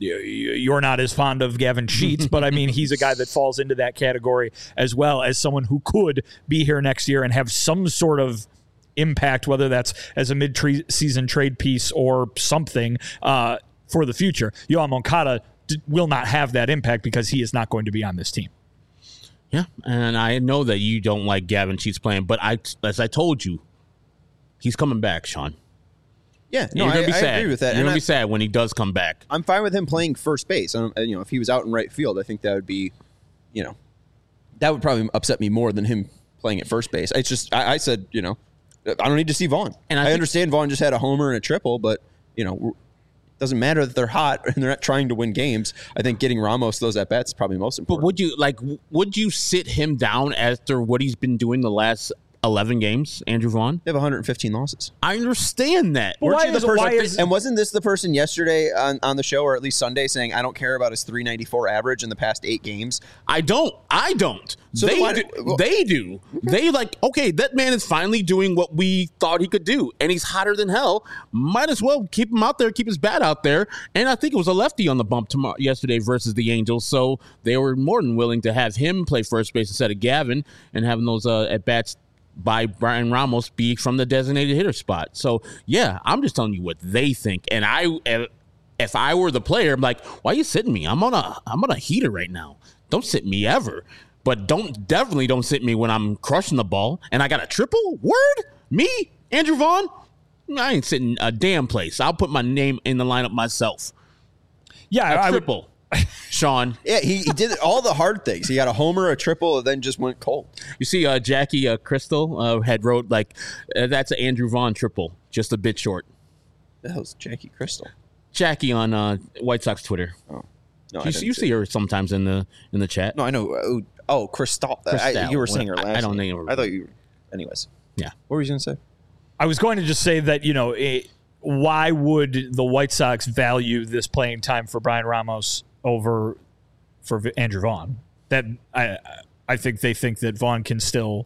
you're not as fond of Gavin Sheets, but I mean he's a guy that falls into that category as well as someone who could be here next year and have some sort of impact, whether that's as a mid-season trade piece or something uh, for the future. Yoan Moncada d- will not have that impact because he is not going to be on this team. Yeah, and I know that you don't like Gavin Sheets playing, but I, as I told you, he's coming back, Sean. Yeah, no, You're gonna I, be I sad. agree with that. You're and gonna I, be sad when he does come back. I'm fine with him playing first base. Um, you know, if he was out in right field, I think that would be, you know, that would probably upset me more than him playing at first base. It's just, I, I said, you know, I don't need to see Vaughn. And I I, think- understand Vaughn just had a homer and a triple, but you know. Doesn't matter that they're hot and they're not trying to win games. I think getting Ramos those at bats is probably most important. But would you like? Would you sit him down after what he's been doing the last eleven games, Andrew Vaughn? They have one hundred fifteen losses. I understand that. Well, Weren't why you the is- person, why is- and wasn't this the person yesterday on, on the show, or at least Sunday, saying I don't care about his three ninety-four average in the past eight games? I don't. I don't. So they why- do. well- they do. They like. Okay, that man is finally doing what we thought he could do, and he's hotter than hell. Might as well keep him out there, keep his bat out there. And I think it was a lefty on the bump tomorrow, yesterday versus the Angels, so they were more than willing to have him play first base instead of Gavin, and having those uh, at bats by Brian Ramos be from the designated hitter spot. So yeah, I'm just telling you what they think. And I, if I were the player, I'm like, why are you sitting me? I'm on a, I'm on a heater right now. Don't sit me ever. But don't definitely don't sit me when I'm crushing the ball and I got a triple. Word, me, Andrew Vaughn. I ain't sitting a damn place. I'll put my name in the lineup myself. Yeah, A I would, triple, Sean. Yeah, he, he did all the hard things. He got a homer, a triple, and then just went cold. You see, uh, Jackie uh, Crystal uh, had wrote like uh, that's an Andrew Vaughn triple, just a bit short. That was Jackie Crystal. Jackie on uh, White Sox Twitter. Oh, no, I You, didn't you see see it. her sometimes in the in the chat. No, I know. Oh, oh Crystal. I, Crystal. you were saying her I- last I don't name. think it- I thought you. Anyways, Yeah. what were you gonna say? I was going to just say that, you know, it, why would the White Sox value this playing time for Brian Ramos over for V- Andrew Vaughn? That I I think they think that Vaughn can still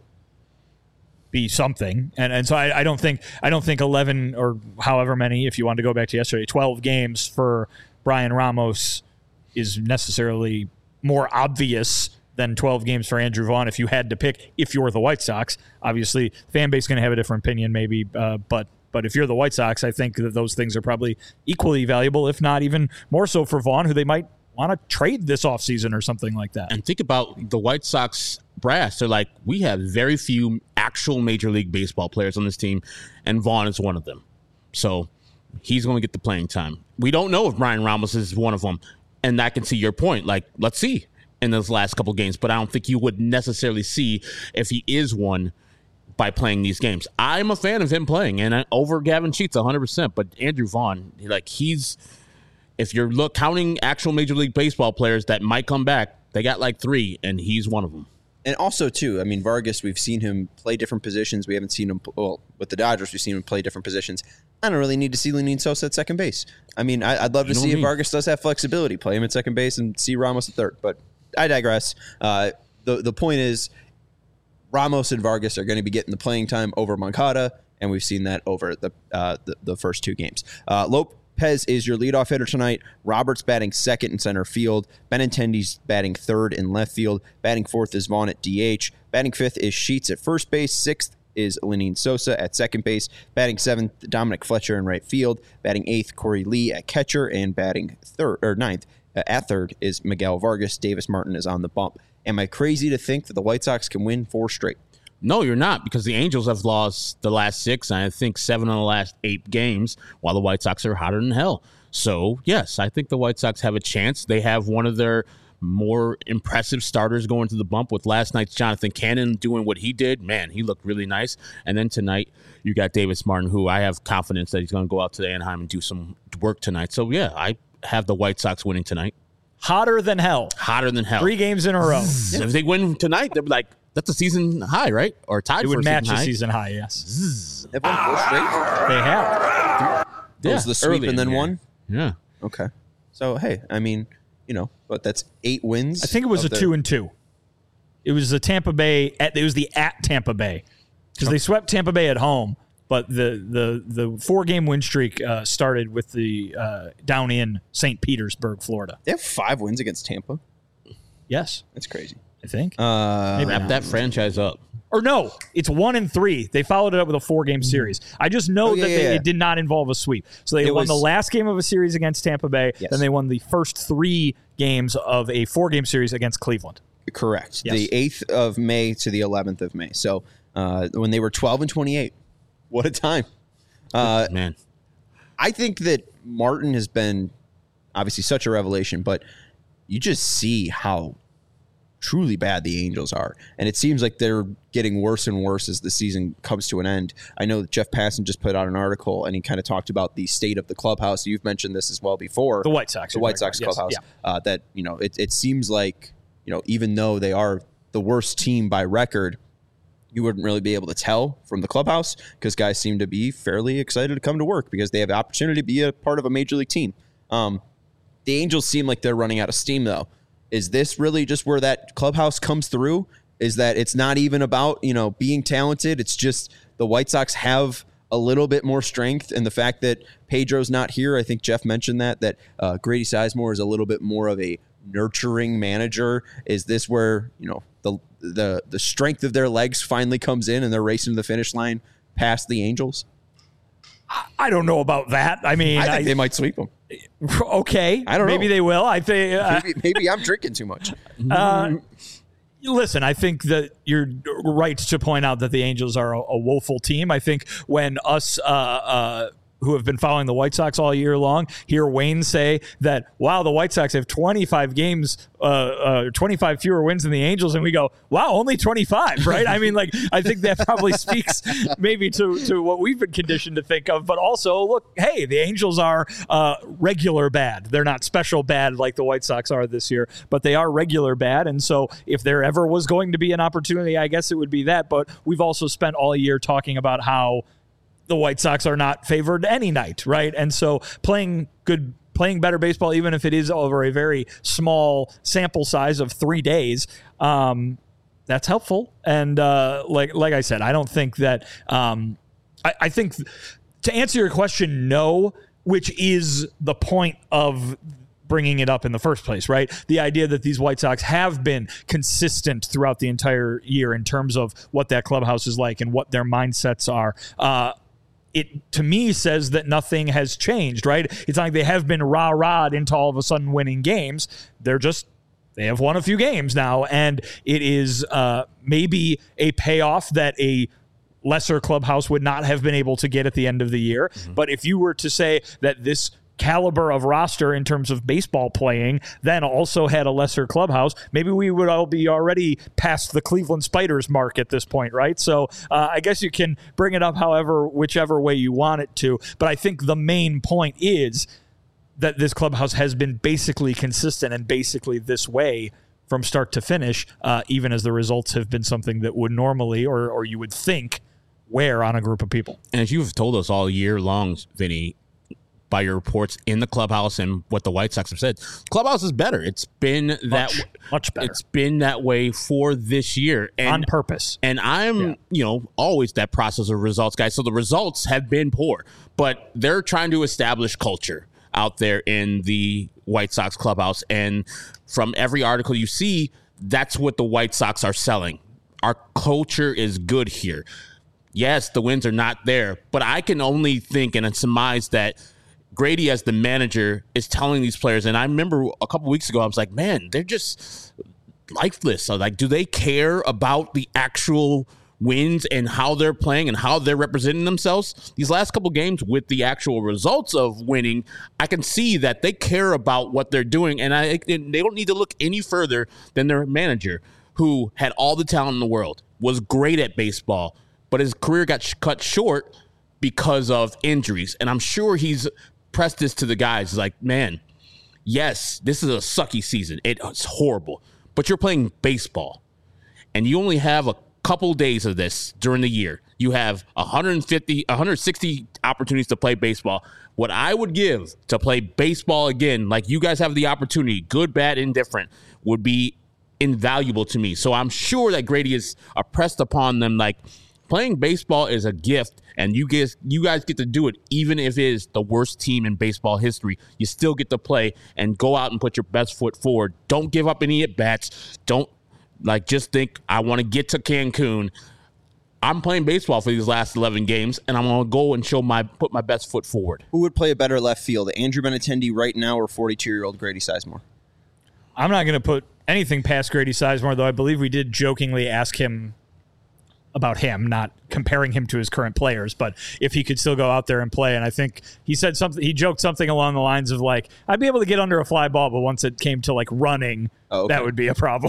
be something, and and so I, I don't think I don't think eleven or however many, if you want to go back to yesterday, twelve games for Brian Ramos is necessarily more obvious than twelve games for Andrew Vaughn if you had to pick. If you're the White Sox, obviously fan base is going to have a different opinion maybe, uh, but but if you're the White Sox, I think that those things are probably equally valuable, if not even more so for Vaughn, who they might want to trade this offseason or something like that. And think about the White Sox brass. They're like, we have very few actual Major League Baseball players on this team, and Vaughn is one of them. So he's going to get the playing time. We don't know if Brian Ramos is one of them, and I can see your point. Like, let's see in those last couple games, but I don't think you would necessarily see if he is one by playing these games. I'm a fan of him playing, and I, over Gavin Sheets one hundred percent, but Andrew Vaughn, like he's, if you're look counting actual Major League Baseball players that might come back, they got like three, and he's one of them. And also, too, I mean, Vargas, we've seen him play different positions. We haven't seen him, well, with the Dodgers, we've seen him play different positions. I don't really need to see Lenin Sosa at second base. I mean, I, I'd love to see if Vargas does have flexibility, play him at second base and see Ramos at third. But I digress. Uh, the, the point is, Ramos and Vargas are going to be getting the playing time over Moncada, and we've seen that over the uh, the, the first two games. Uh, Lopez is your leadoff hitter tonight. Roberts batting second in center field. Benintendi's batting third in left field. Batting fourth is Vaughn at D H. Batting fifth is Sheets at first base. Sixth is Lenin Sosa at second base. Batting seventh, Dominic Fletcher in right field. Batting eighth, Corey Lee at catcher. And batting third or ninth uh, at third is Miguel Vargas. Davis Martin is on the bump. Am I crazy to think that the White Sox can win four straight? No, you're not, because the Angels have lost the last six, and I think seven of the last eight games, while the White Sox are hotter than hell. So, yes, I think the White Sox have a chance. They have one of their more impressive starters going to the bump with last night's Jonathan Cannon doing what he did. Man, he looked really nice. And then tonight, you got Davis Martin, who I have confidence that he's going to go out to Anaheim and do some work tonight. So, yeah, I have the White Sox winning tonight. Hotter than hell. Hotter than hell. Three games in a row. If they win tonight, they'll be like, that's a season high, right? Or tied it for would a match season a high. season high, yes. They've won four straight? They have. That was the sweep and then one? Yeah. Okay. So, hey, I mean, you know, but that's eight wins. I think it was a their- two and two. It was the Tampa Bay, at, it was the at Tampa Bay. Because they swept Tampa Bay at home, but the the, the four-game win streak uh, started with the uh, down in Saint Petersburg, Florida. They have five wins against Tampa. Yes. That's crazy. I think. Uh, Maybe Wrap not. that franchise up. Or no, it's one and three. They followed it up with a four-game series. I just know Oh, yeah, that they, yeah, yeah. it did not involve a sweep. So they It won was- the last game of a series against Tampa Bay. Yes. Then they won the first three games of a four-game series against Cleveland. Correct. Yes. The eighth of May to the eleventh of May. So uh, when they were twelve and twenty-eight. What a time. Uh, Man. I think that Martin has been obviously such a revelation, but you just see how truly bad the Angels are. And it seems like they're getting worse and worse as the season comes to an end. I know that Jeff Passan just put out an article and he kind of talked about the state of the clubhouse. You've mentioned this as well before. The White Sox. The White Sox Yes, clubhouse. yeah. Uh, that, you know, it, it seems like, you know, even though they are the worst team by record, you wouldn't really be able to tell from the clubhouse because guys seem to be fairly excited to come to work because they have the opportunity to be a part of a major league team. Um, the Angels seem like they're running out of steam, though. Is this really just where that clubhouse comes through? Is that it's not even about, you know, being talented? It's just the White Sox have a little bit more strength, and the fact that Pedro's not here, I think Jeff mentioned that, that uh, Grady Sizemore is a little bit more of a nurturing manager. Is this where, you know, the the the strength of their legs finally comes in and they're racing to the finish line past the Angels? I don't know about that. I mean, I think I, they might sweep them. okay. I don't know. Maybe they will. I think. Uh, Maybe, maybe I'm drinking too much. uh, listen, I think that you're right to point out that the Angels are a, a woeful team. I think when us. Uh, uh, who have been following the White Sox all year long, hear Wayne say that, wow, the White Sox have twenty-five games, uh, uh, twenty-five fewer wins than the Angels, and we go, wow, only twenty-five, right? I mean, like, I think that probably speaks maybe to, to what we've been conditioned to think of, but also, look, hey, the Angels are uh, regular bad. They're not special bad like the White Sox are this year, but they are regular bad, and so if there ever was going to be an opportunity, I guess it would be that, but we've also spent all year talking about how the White Sox are not favored any night, right? And so playing good, playing better baseball, even if it is over a very small sample size of three days, um, that's helpful. And uh, like like I said, I don't think that. Um, I, I think to answer your question, no, which is the point of bringing it up in the first place, right? The idea that these White Sox have been consistent throughout the entire year in terms of what that clubhouse is like and what their mindsets are. Uh, It, to me, says that nothing has changed, right? It's not like they have been rah-rahed into all of a sudden winning games. They're just, they have won a few games now, and it is uh, maybe a payoff that a lesser clubhouse would not have been able to get at the end of the year. Mm-hmm. But if you were to say that this caliber of roster in terms of baseball playing then also had a lesser clubhouse, maybe we would all be already past the Cleveland Spiders mark at this point, right? So uh, I guess you can bring it up however, whichever way you want it to. But I think the main point is that this clubhouse has been basically consistent and basically this way from start to finish, uh, even as the results have been something that would normally or or you would think wear on a group of people. And as you've told us all year long, Vinny, by your reports in the clubhouse and what the White Sox have said, clubhouse is better. It's been that Much, much better. It's been that way for this year and, on purpose. And I'm, yeah. you know, always that process of results guy. So the results have been poor, but they're trying to establish culture out there in the White Sox clubhouse. And from every article you see, that's what the White Sox are selling. Our culture is good here. Yes, the wins are not there, but I can only think and surmise that Grady, as the manager, is telling these players, and I remember a couple weeks ago, I was like, man, they're just lifeless. So, like, do they care about the actual wins and how they're playing and how they're representing themselves? These last couple games with the actual results of winning, I can see that they care about what they're doing, and I and they don't need to look any further than their manager, who had all the talent in the world, was great at baseball, but his career got sh- cut short because of injuries. And I'm sure he's pressed this to the guys, like, man, yes, this is a sucky season. It's horrible, but you're playing baseball, and you only have a couple days of this during the year. You have one hundred fifty, one hundred sixty opportunities to play baseball. What I would give to play baseball again, like you guys have the opportunity, good, bad, indifferent, would be invaluable to me. So I'm sure that Grady is pressed upon them, like, playing baseball is a gift, and you guys, you guys get to do it, even if it is the worst team in baseball history. You still get to play and go out and put your best foot forward. Don't give up any at-bats. Don't, like, just think, I want to get to Cancun. I'm playing baseball for these last eleven games, and I'm going to go and show my put my best foot forward. Who would play a better left field, Andrew Benintendi right now or forty-two-year-old Grady Sizemore? I'm not going to put anything past Grady Sizemore, though I believe we did jokingly ask him about him, not comparing him to his current players, but if he could still go out there and play. And I think he said something, he joked something along the lines of, like, I'd be able to get under a fly ball, but once it came to, like, running, oh, okay. that would be a problem.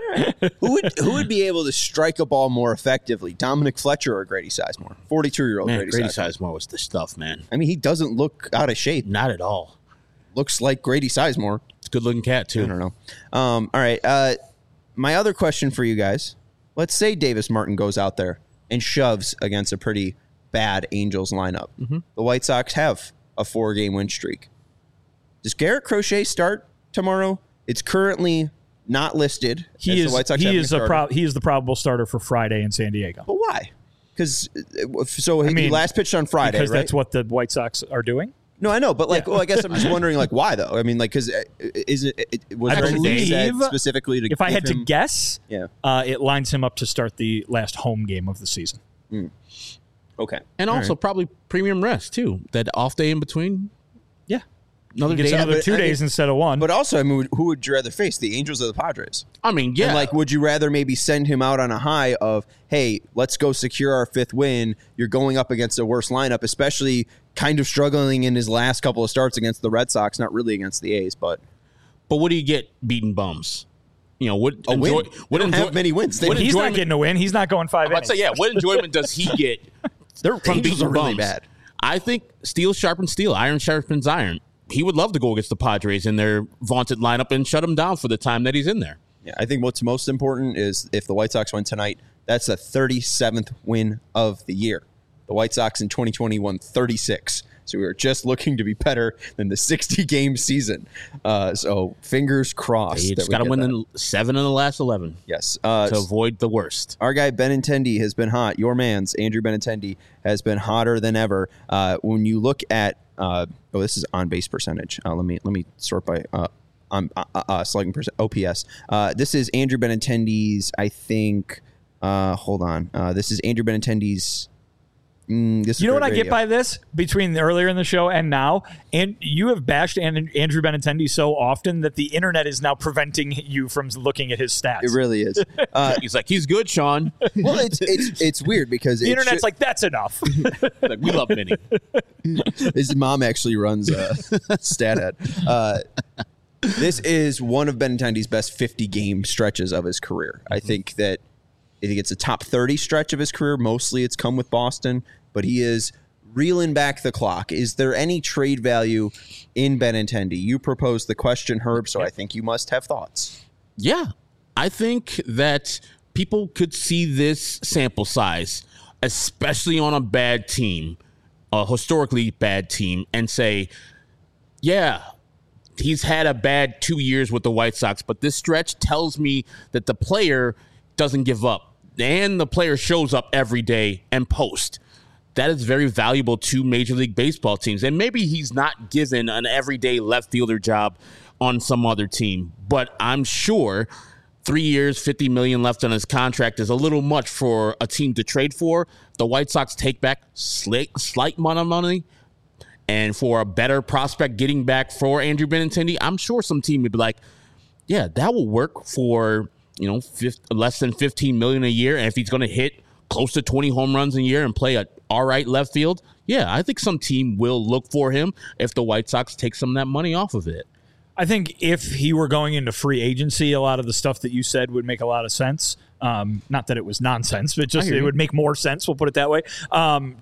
who would who would be able to strike a ball more effectively, Dominic Fletcher or Grady Sizemore? forty-two-year-old man, Grady, Grady Sizemore. Sizemore was the stuff, man. I mean, he doesn't look out of shape. Not at all. Looks like Grady Sizemore. It's a good-looking cat, too. I don't know. Um, all right. Uh, my other question for you guys, let's say Davis Martin goes out there and shoves against a pretty bad Angels lineup. Mm-hmm. The White Sox have a four-game win streak. Does Garrett Crochet start tomorrow? It's currently not listed. He as is. The White Sox he is a a pro- He is the probable starter for Friday in San Diego. But why? Because so I he mean, last pitched on Friday, because right? that's what the White Sox are doing. No, I know, but like, yeah. well, I guess I'm just wondering, like, why though? I mean, like, because is it, it was I there anything said believe, specifically to? If I had him, to guess, yeah, uh, it lines him up to start the last home game of the season. Mm. Okay, and All also right. probably premium rest too. That off day in between. Yeah, another he gets day, another but, two I days mean, instead of one. But also, I mean, who would you rather face, the Angels or the Padres? I mean, yeah. And like, would you rather maybe send him out on a high of, hey, let's go secure our fifth win? You're going up against a worse lineup, especially kind of struggling in his last couple of starts against the Red Sox, not really against the A's, but. But what do you get beating bums? You know, what a enjoy, win. What they don't enjoy, have many wins. They, what he's enjoyment, not getting a win. He's not going five. I'd say, yeah. What enjoyment does he get? Their from Angels beating are really bums? bad. I think steel sharpens steel, iron sharpens iron. He would love to go against the Padres in their vaunted lineup and shut them down for the time that he's in there. Yeah, I think what's most important is if the White Sox win tonight, that's the thirty-seventh win of the year. The White Sox in twenty twenty won thirty-six. So we were just looking to be better than the sixty-game season. Uh, so fingers crossed. You just got to win the seven of the last eleven. Yes. Uh, to avoid the worst. Our guy Benintendi has been hot. Your man's Andrew Benintendi has been hotter than ever. Uh, when you look at, uh, oh, this is on base percentage. Uh, let me let me sort by uh, on uh, uh, slugging percent O P S. Uh, this is Andrew Benintendi's. I think. Uh, hold on. Uh, this is Andrew Benintendi's. Mm, this you know what I radio. get by this between the earlier in the show and now, and you have bashed Andrew Benintendi so often that the internet is now preventing you from looking at his stats. It really is. Uh, he's like, he's good, Sean. Well, it's it's it's weird because the it internet's should, like, that's enough. Like, we love Vinny. His mom actually runs a StatHead. Uh, this is one of Benintendi's best fifty game stretches of his career. Mm-hmm. I think that. I think it's a top thirty stretch of his career. Mostly it's come with Boston, but he is reeling back the clock. Is there any trade value in Benintendi? You proposed the question, Herb, so I think you must have thoughts. Yeah. I think that people could see this sample size, especially on a bad team, a historically bad team, and say, yeah, he's had a bad two years with the White Sox, but this stretch tells me that the player doesn't give up, and the player shows up every day and post. That is very valuable to Major League Baseball teams. And maybe he's not given an everyday left fielder job on some other team, but I'm sure three years, fifty million dollars left on his contract is a little much for a team to trade for. The White Sox take back slight, slight amount of money, and for a better prospect getting back for Andrew Benintendi, I'm sure some team would be like, yeah, that will work for, you know, fifty, less than fifteen million dollars a year. And if he's going to hit close to twenty home runs a year and play a all right left field, yeah, I think some team will look for him if the White Sox take some of that money off of it. I think if he were going into free agency, a lot of the stuff that you said would make a lot of sense. Um, not that it was nonsense, but just it would make more sense. We'll put it that way. Um,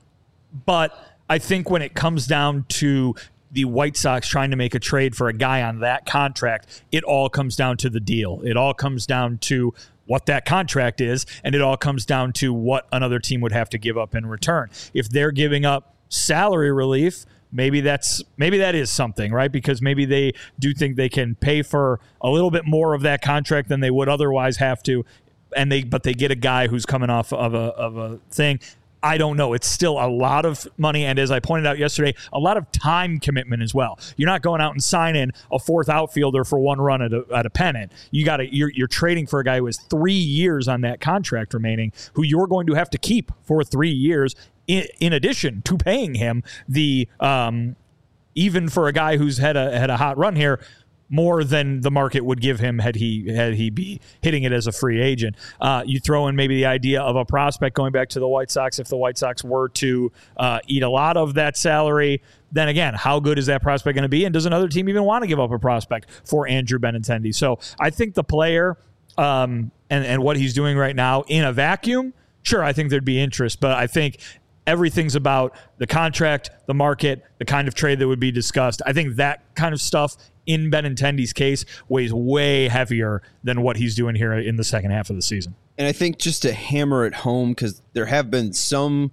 but I think when it comes down to the White Sox trying to make a trade for a guy on that contract, it all comes down to the deal. It all comes down to what that contract is, and it all comes down to what another team would have to give up in return. If they're giving up salary relief, maybe that's maybe that is something, right? Because maybe they do think they can pay for a little bit more of that contract than they would otherwise have to, and they but they get a guy who's coming off of a of a thing. I don't know. It's still a lot of money, and as I pointed out yesterday, a lot of time commitment as well. You're not going out and signing a fourth outfielder for one run at a, at a pennant. You got to you're, you're trading for a guy who has three years on that contract remaining, who you're going to have to keep for three years. In, in addition to paying him the um, even for a guy who's had a had a hot run here, more than the market would give him had he had he be hitting it as a free agent. Uh, you throw in maybe the idea of a prospect going back to the White Sox if the White Sox were to uh, eat a lot of that salary. Then again, how good is that prospect going to be? And does another team even want to give up a prospect for Andrew Benintendi? So I think the player um, and, and what he's doing right now in a vacuum, sure, I think there'd be interest. But I think everything's about the contract, the market, the kind of trade that would be discussed. I think that kind of stuff in Benintendi's case weighs way heavier than what he's doing here in the second half of the season. And I think just to hammer it home, because there have been some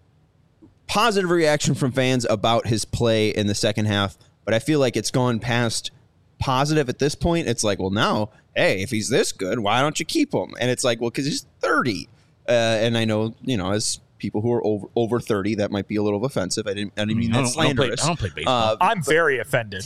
positive reaction from fans about his play in the second half, but I feel like it's gone past positive at this point. It's like, well, now, hey, if he's this good, why don't you keep him? And it's like, well, because he's thirty. Uh, and I know, you know, as people who are over over thirty, that might be a little offensive. I didn't, I didn't mean that slanderous. I don't play, I don't play baseball. Uh, I'm very offended.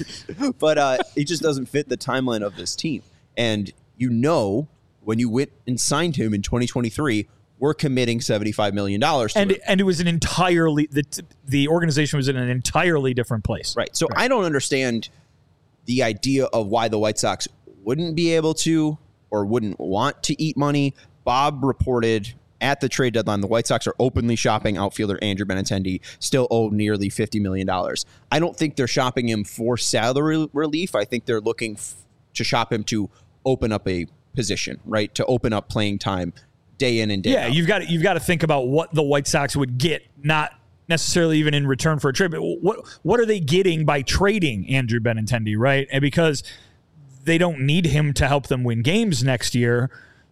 but uh, it just doesn't fit the timeline of this team. And you know, when you went and signed him in twenty twenty-three, we're committing seventy-five million dollars to and him. and it was an entirely the the organization was in an entirely different place. Right. So right. I don't understand the idea of why the White Sox wouldn't be able to or wouldn't want to eat money. Bob reported at the trade deadline, the White Sox are openly shopping outfielder Andrew Benintendi, still owed nearly fifty million dollars. I don't think they're shopping him for salary relief. I think they're looking f- to shop him to open up a position, right? To open up playing time day in and day yeah, out. Yeah, you've got to, you've got to think about what the White Sox would get, not necessarily even in return for a trade, but what what are they getting by trading Andrew Benintendi, right? And because they don't need him to help them win games next year,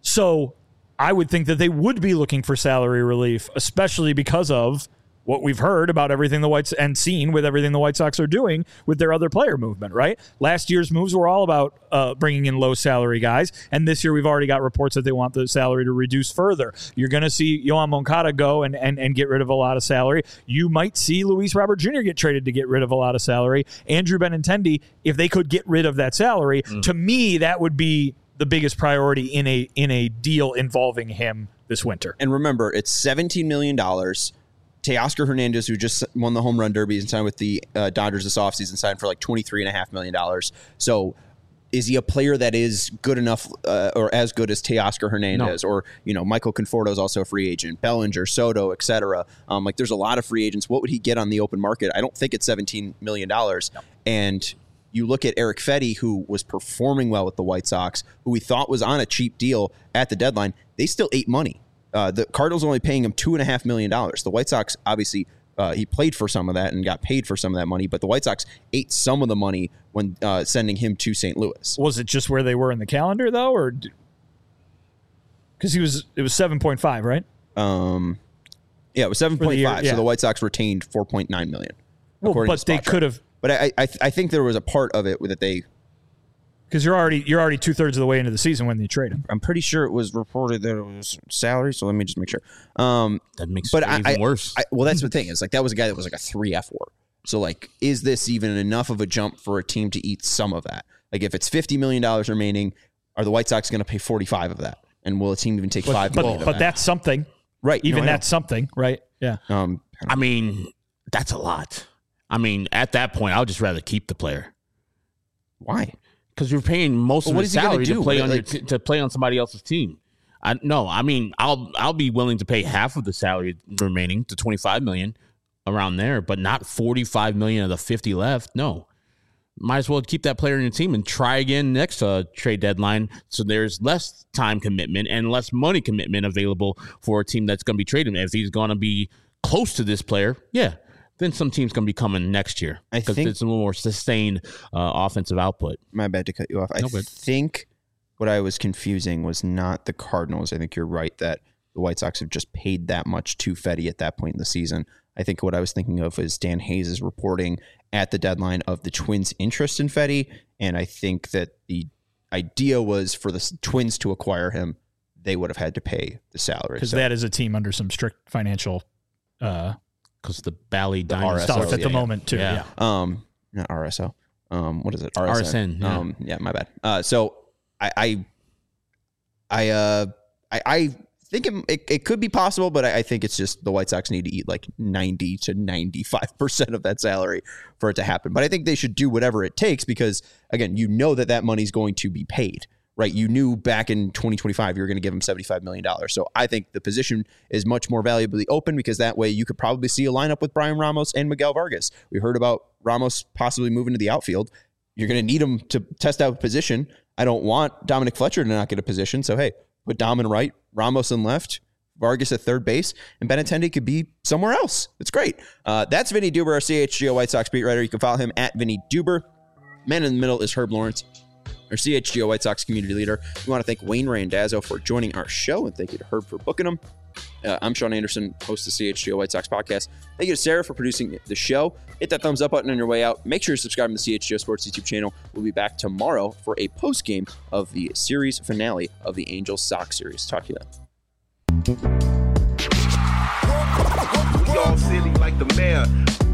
so I would think that they would be looking for salary relief, especially because of what we've heard about everything the Whites and seen with everything the White Sox are doing with their other player movement, right? Last year's moves were all about uh, bringing in low salary guys, and this year we've already got reports that they want the salary to reduce further. You're going to see Yohan Moncada go and, and, and get rid of a lot of salary. You might see Luis Robert Junior get traded to get rid of a lot of salary. Andrew Benintendi, if they could get rid of that salary, mm. to me, that would be the biggest priority in a in a deal involving him this winter. And remember, it's seventeen million dollars. Teoscar Hernandez, who just won the home run derby and signed with the uh, Dodgers this offseason, signed for like twenty-three point five million dollars. So is he a player that is good enough uh, or as good as Teoscar Hernandez? No. Or, you know, Michael Conforto is also a free agent, Bellinger, Soto, et cetera. Um, like there's a lot of free agents. What would he get on the open market? I don't think it's seventeen million dollars. No. And you look at Eric Fedde, who was performing well with the White Sox, who we thought was on a cheap deal at the deadline. They still ate money. Uh, the Cardinals only paying him two and a half million dollars. The White Sox obviously Uh, he played for some of that and got paid for some of that money, but the White Sox ate some of the money when uh, sending him to Saint Louis. Was it just where they were in the calendar, though, or because he was it was seven point five, right? Um, yeah, it was seven point five. Yeah. So the White Sox retained four point nine million. Well, but they could have. But I, I, I think there was a part of it that they. Because you're already you're already two thirds of the way into the season when you trade him. I'm pretty sure it was reported that it was salary. So let me just make sure. Um, that makes but it I, even I, worse. I, well, that's the thing. Is like that was a guy that was like a three F war. So like, is this even enough of a jump for a team to eat some of that? Like, if it's fifty million dollars remaining, are the White Sox going to pay forty-five of that? And will a team even take but, five? But, million but of that's something, right? Even no, that's something, right? Yeah. Um, I mean, that's a lot. I mean, at that point, I would just rather keep the player. Why? Because you're paying most well, of his salary to play on like, your t- to play on somebody else's team. I no, I mean, I'll I'll be willing to pay half of the salary remaining to twenty-five million around there, but not forty-five million of the fifty left. No, might as well keep that player in your team and try again next uh, trade deadline. So there's less time commitment and less money commitment available for a team that's going to be trading. If he's going to be close to this player, yeah. Then some team's going to be coming next year because it's a little more sustained uh, offensive output. My bad to cut you off. I No, think what I was confusing was not the Cardinals. I think you're right that the White Sox have just paid that much to Fedde at that point in the season. I think what I was thinking of is Dan Hayes' reporting at the deadline of the Twins' interest in Fedde, and I think that the idea was for the Twins to acquire him, they would have had to pay the salary. Because so, that is a team under some strict financial uh because the Bally The Dynasty stuff at yeah, the yeah. moment too. Yeah. Yeah. um, not R S O. Um, what is it? R R S N. S N, yeah. Um, yeah, my bad. Uh, so I, I, I, uh, I, I think it, it, it could be possible, but I, I think it's just the White Sox need to eat like ninety to ninety-five percent of that salary for it to happen. But I think they should do whatever it takes because, again, you know that that money's going to be paid, right? You knew back in twenty twenty-five you were going to give him seventy-five million dollars. So I think the position is much more valuably open because that way you could probably see a lineup with Brian Ramos and Miguel Vargas. We heard about Ramos possibly moving to the outfield. You're going to need him to test out position. I don't want Dominic Fletcher to not get a position. So, hey, put Dom in right, Ramos in left, Vargas at third base, and Benintendi could be somewhere else. It's great. Uh, that's Vinny Duber, our C H G O White Sox beat writer. You can follow him at Vinny Duber. Man in the middle is Herb Lawrence, our C H G O White Sox community leader. We want to thank Wayne Randazzo for joining our show, and thank you to Herb for booking him. Uh, I'm Sean Anderson, host of the C H G O White Sox podcast. Thank you to Sarah for producing the show. Hit that thumbs up button on your way out. Make sure to subscribe to the C H G O Sports YouTube channel. We'll be back tomorrow for a post game of the series finale of the Angels Sox series. Talk to you then. We all silly like the mayor.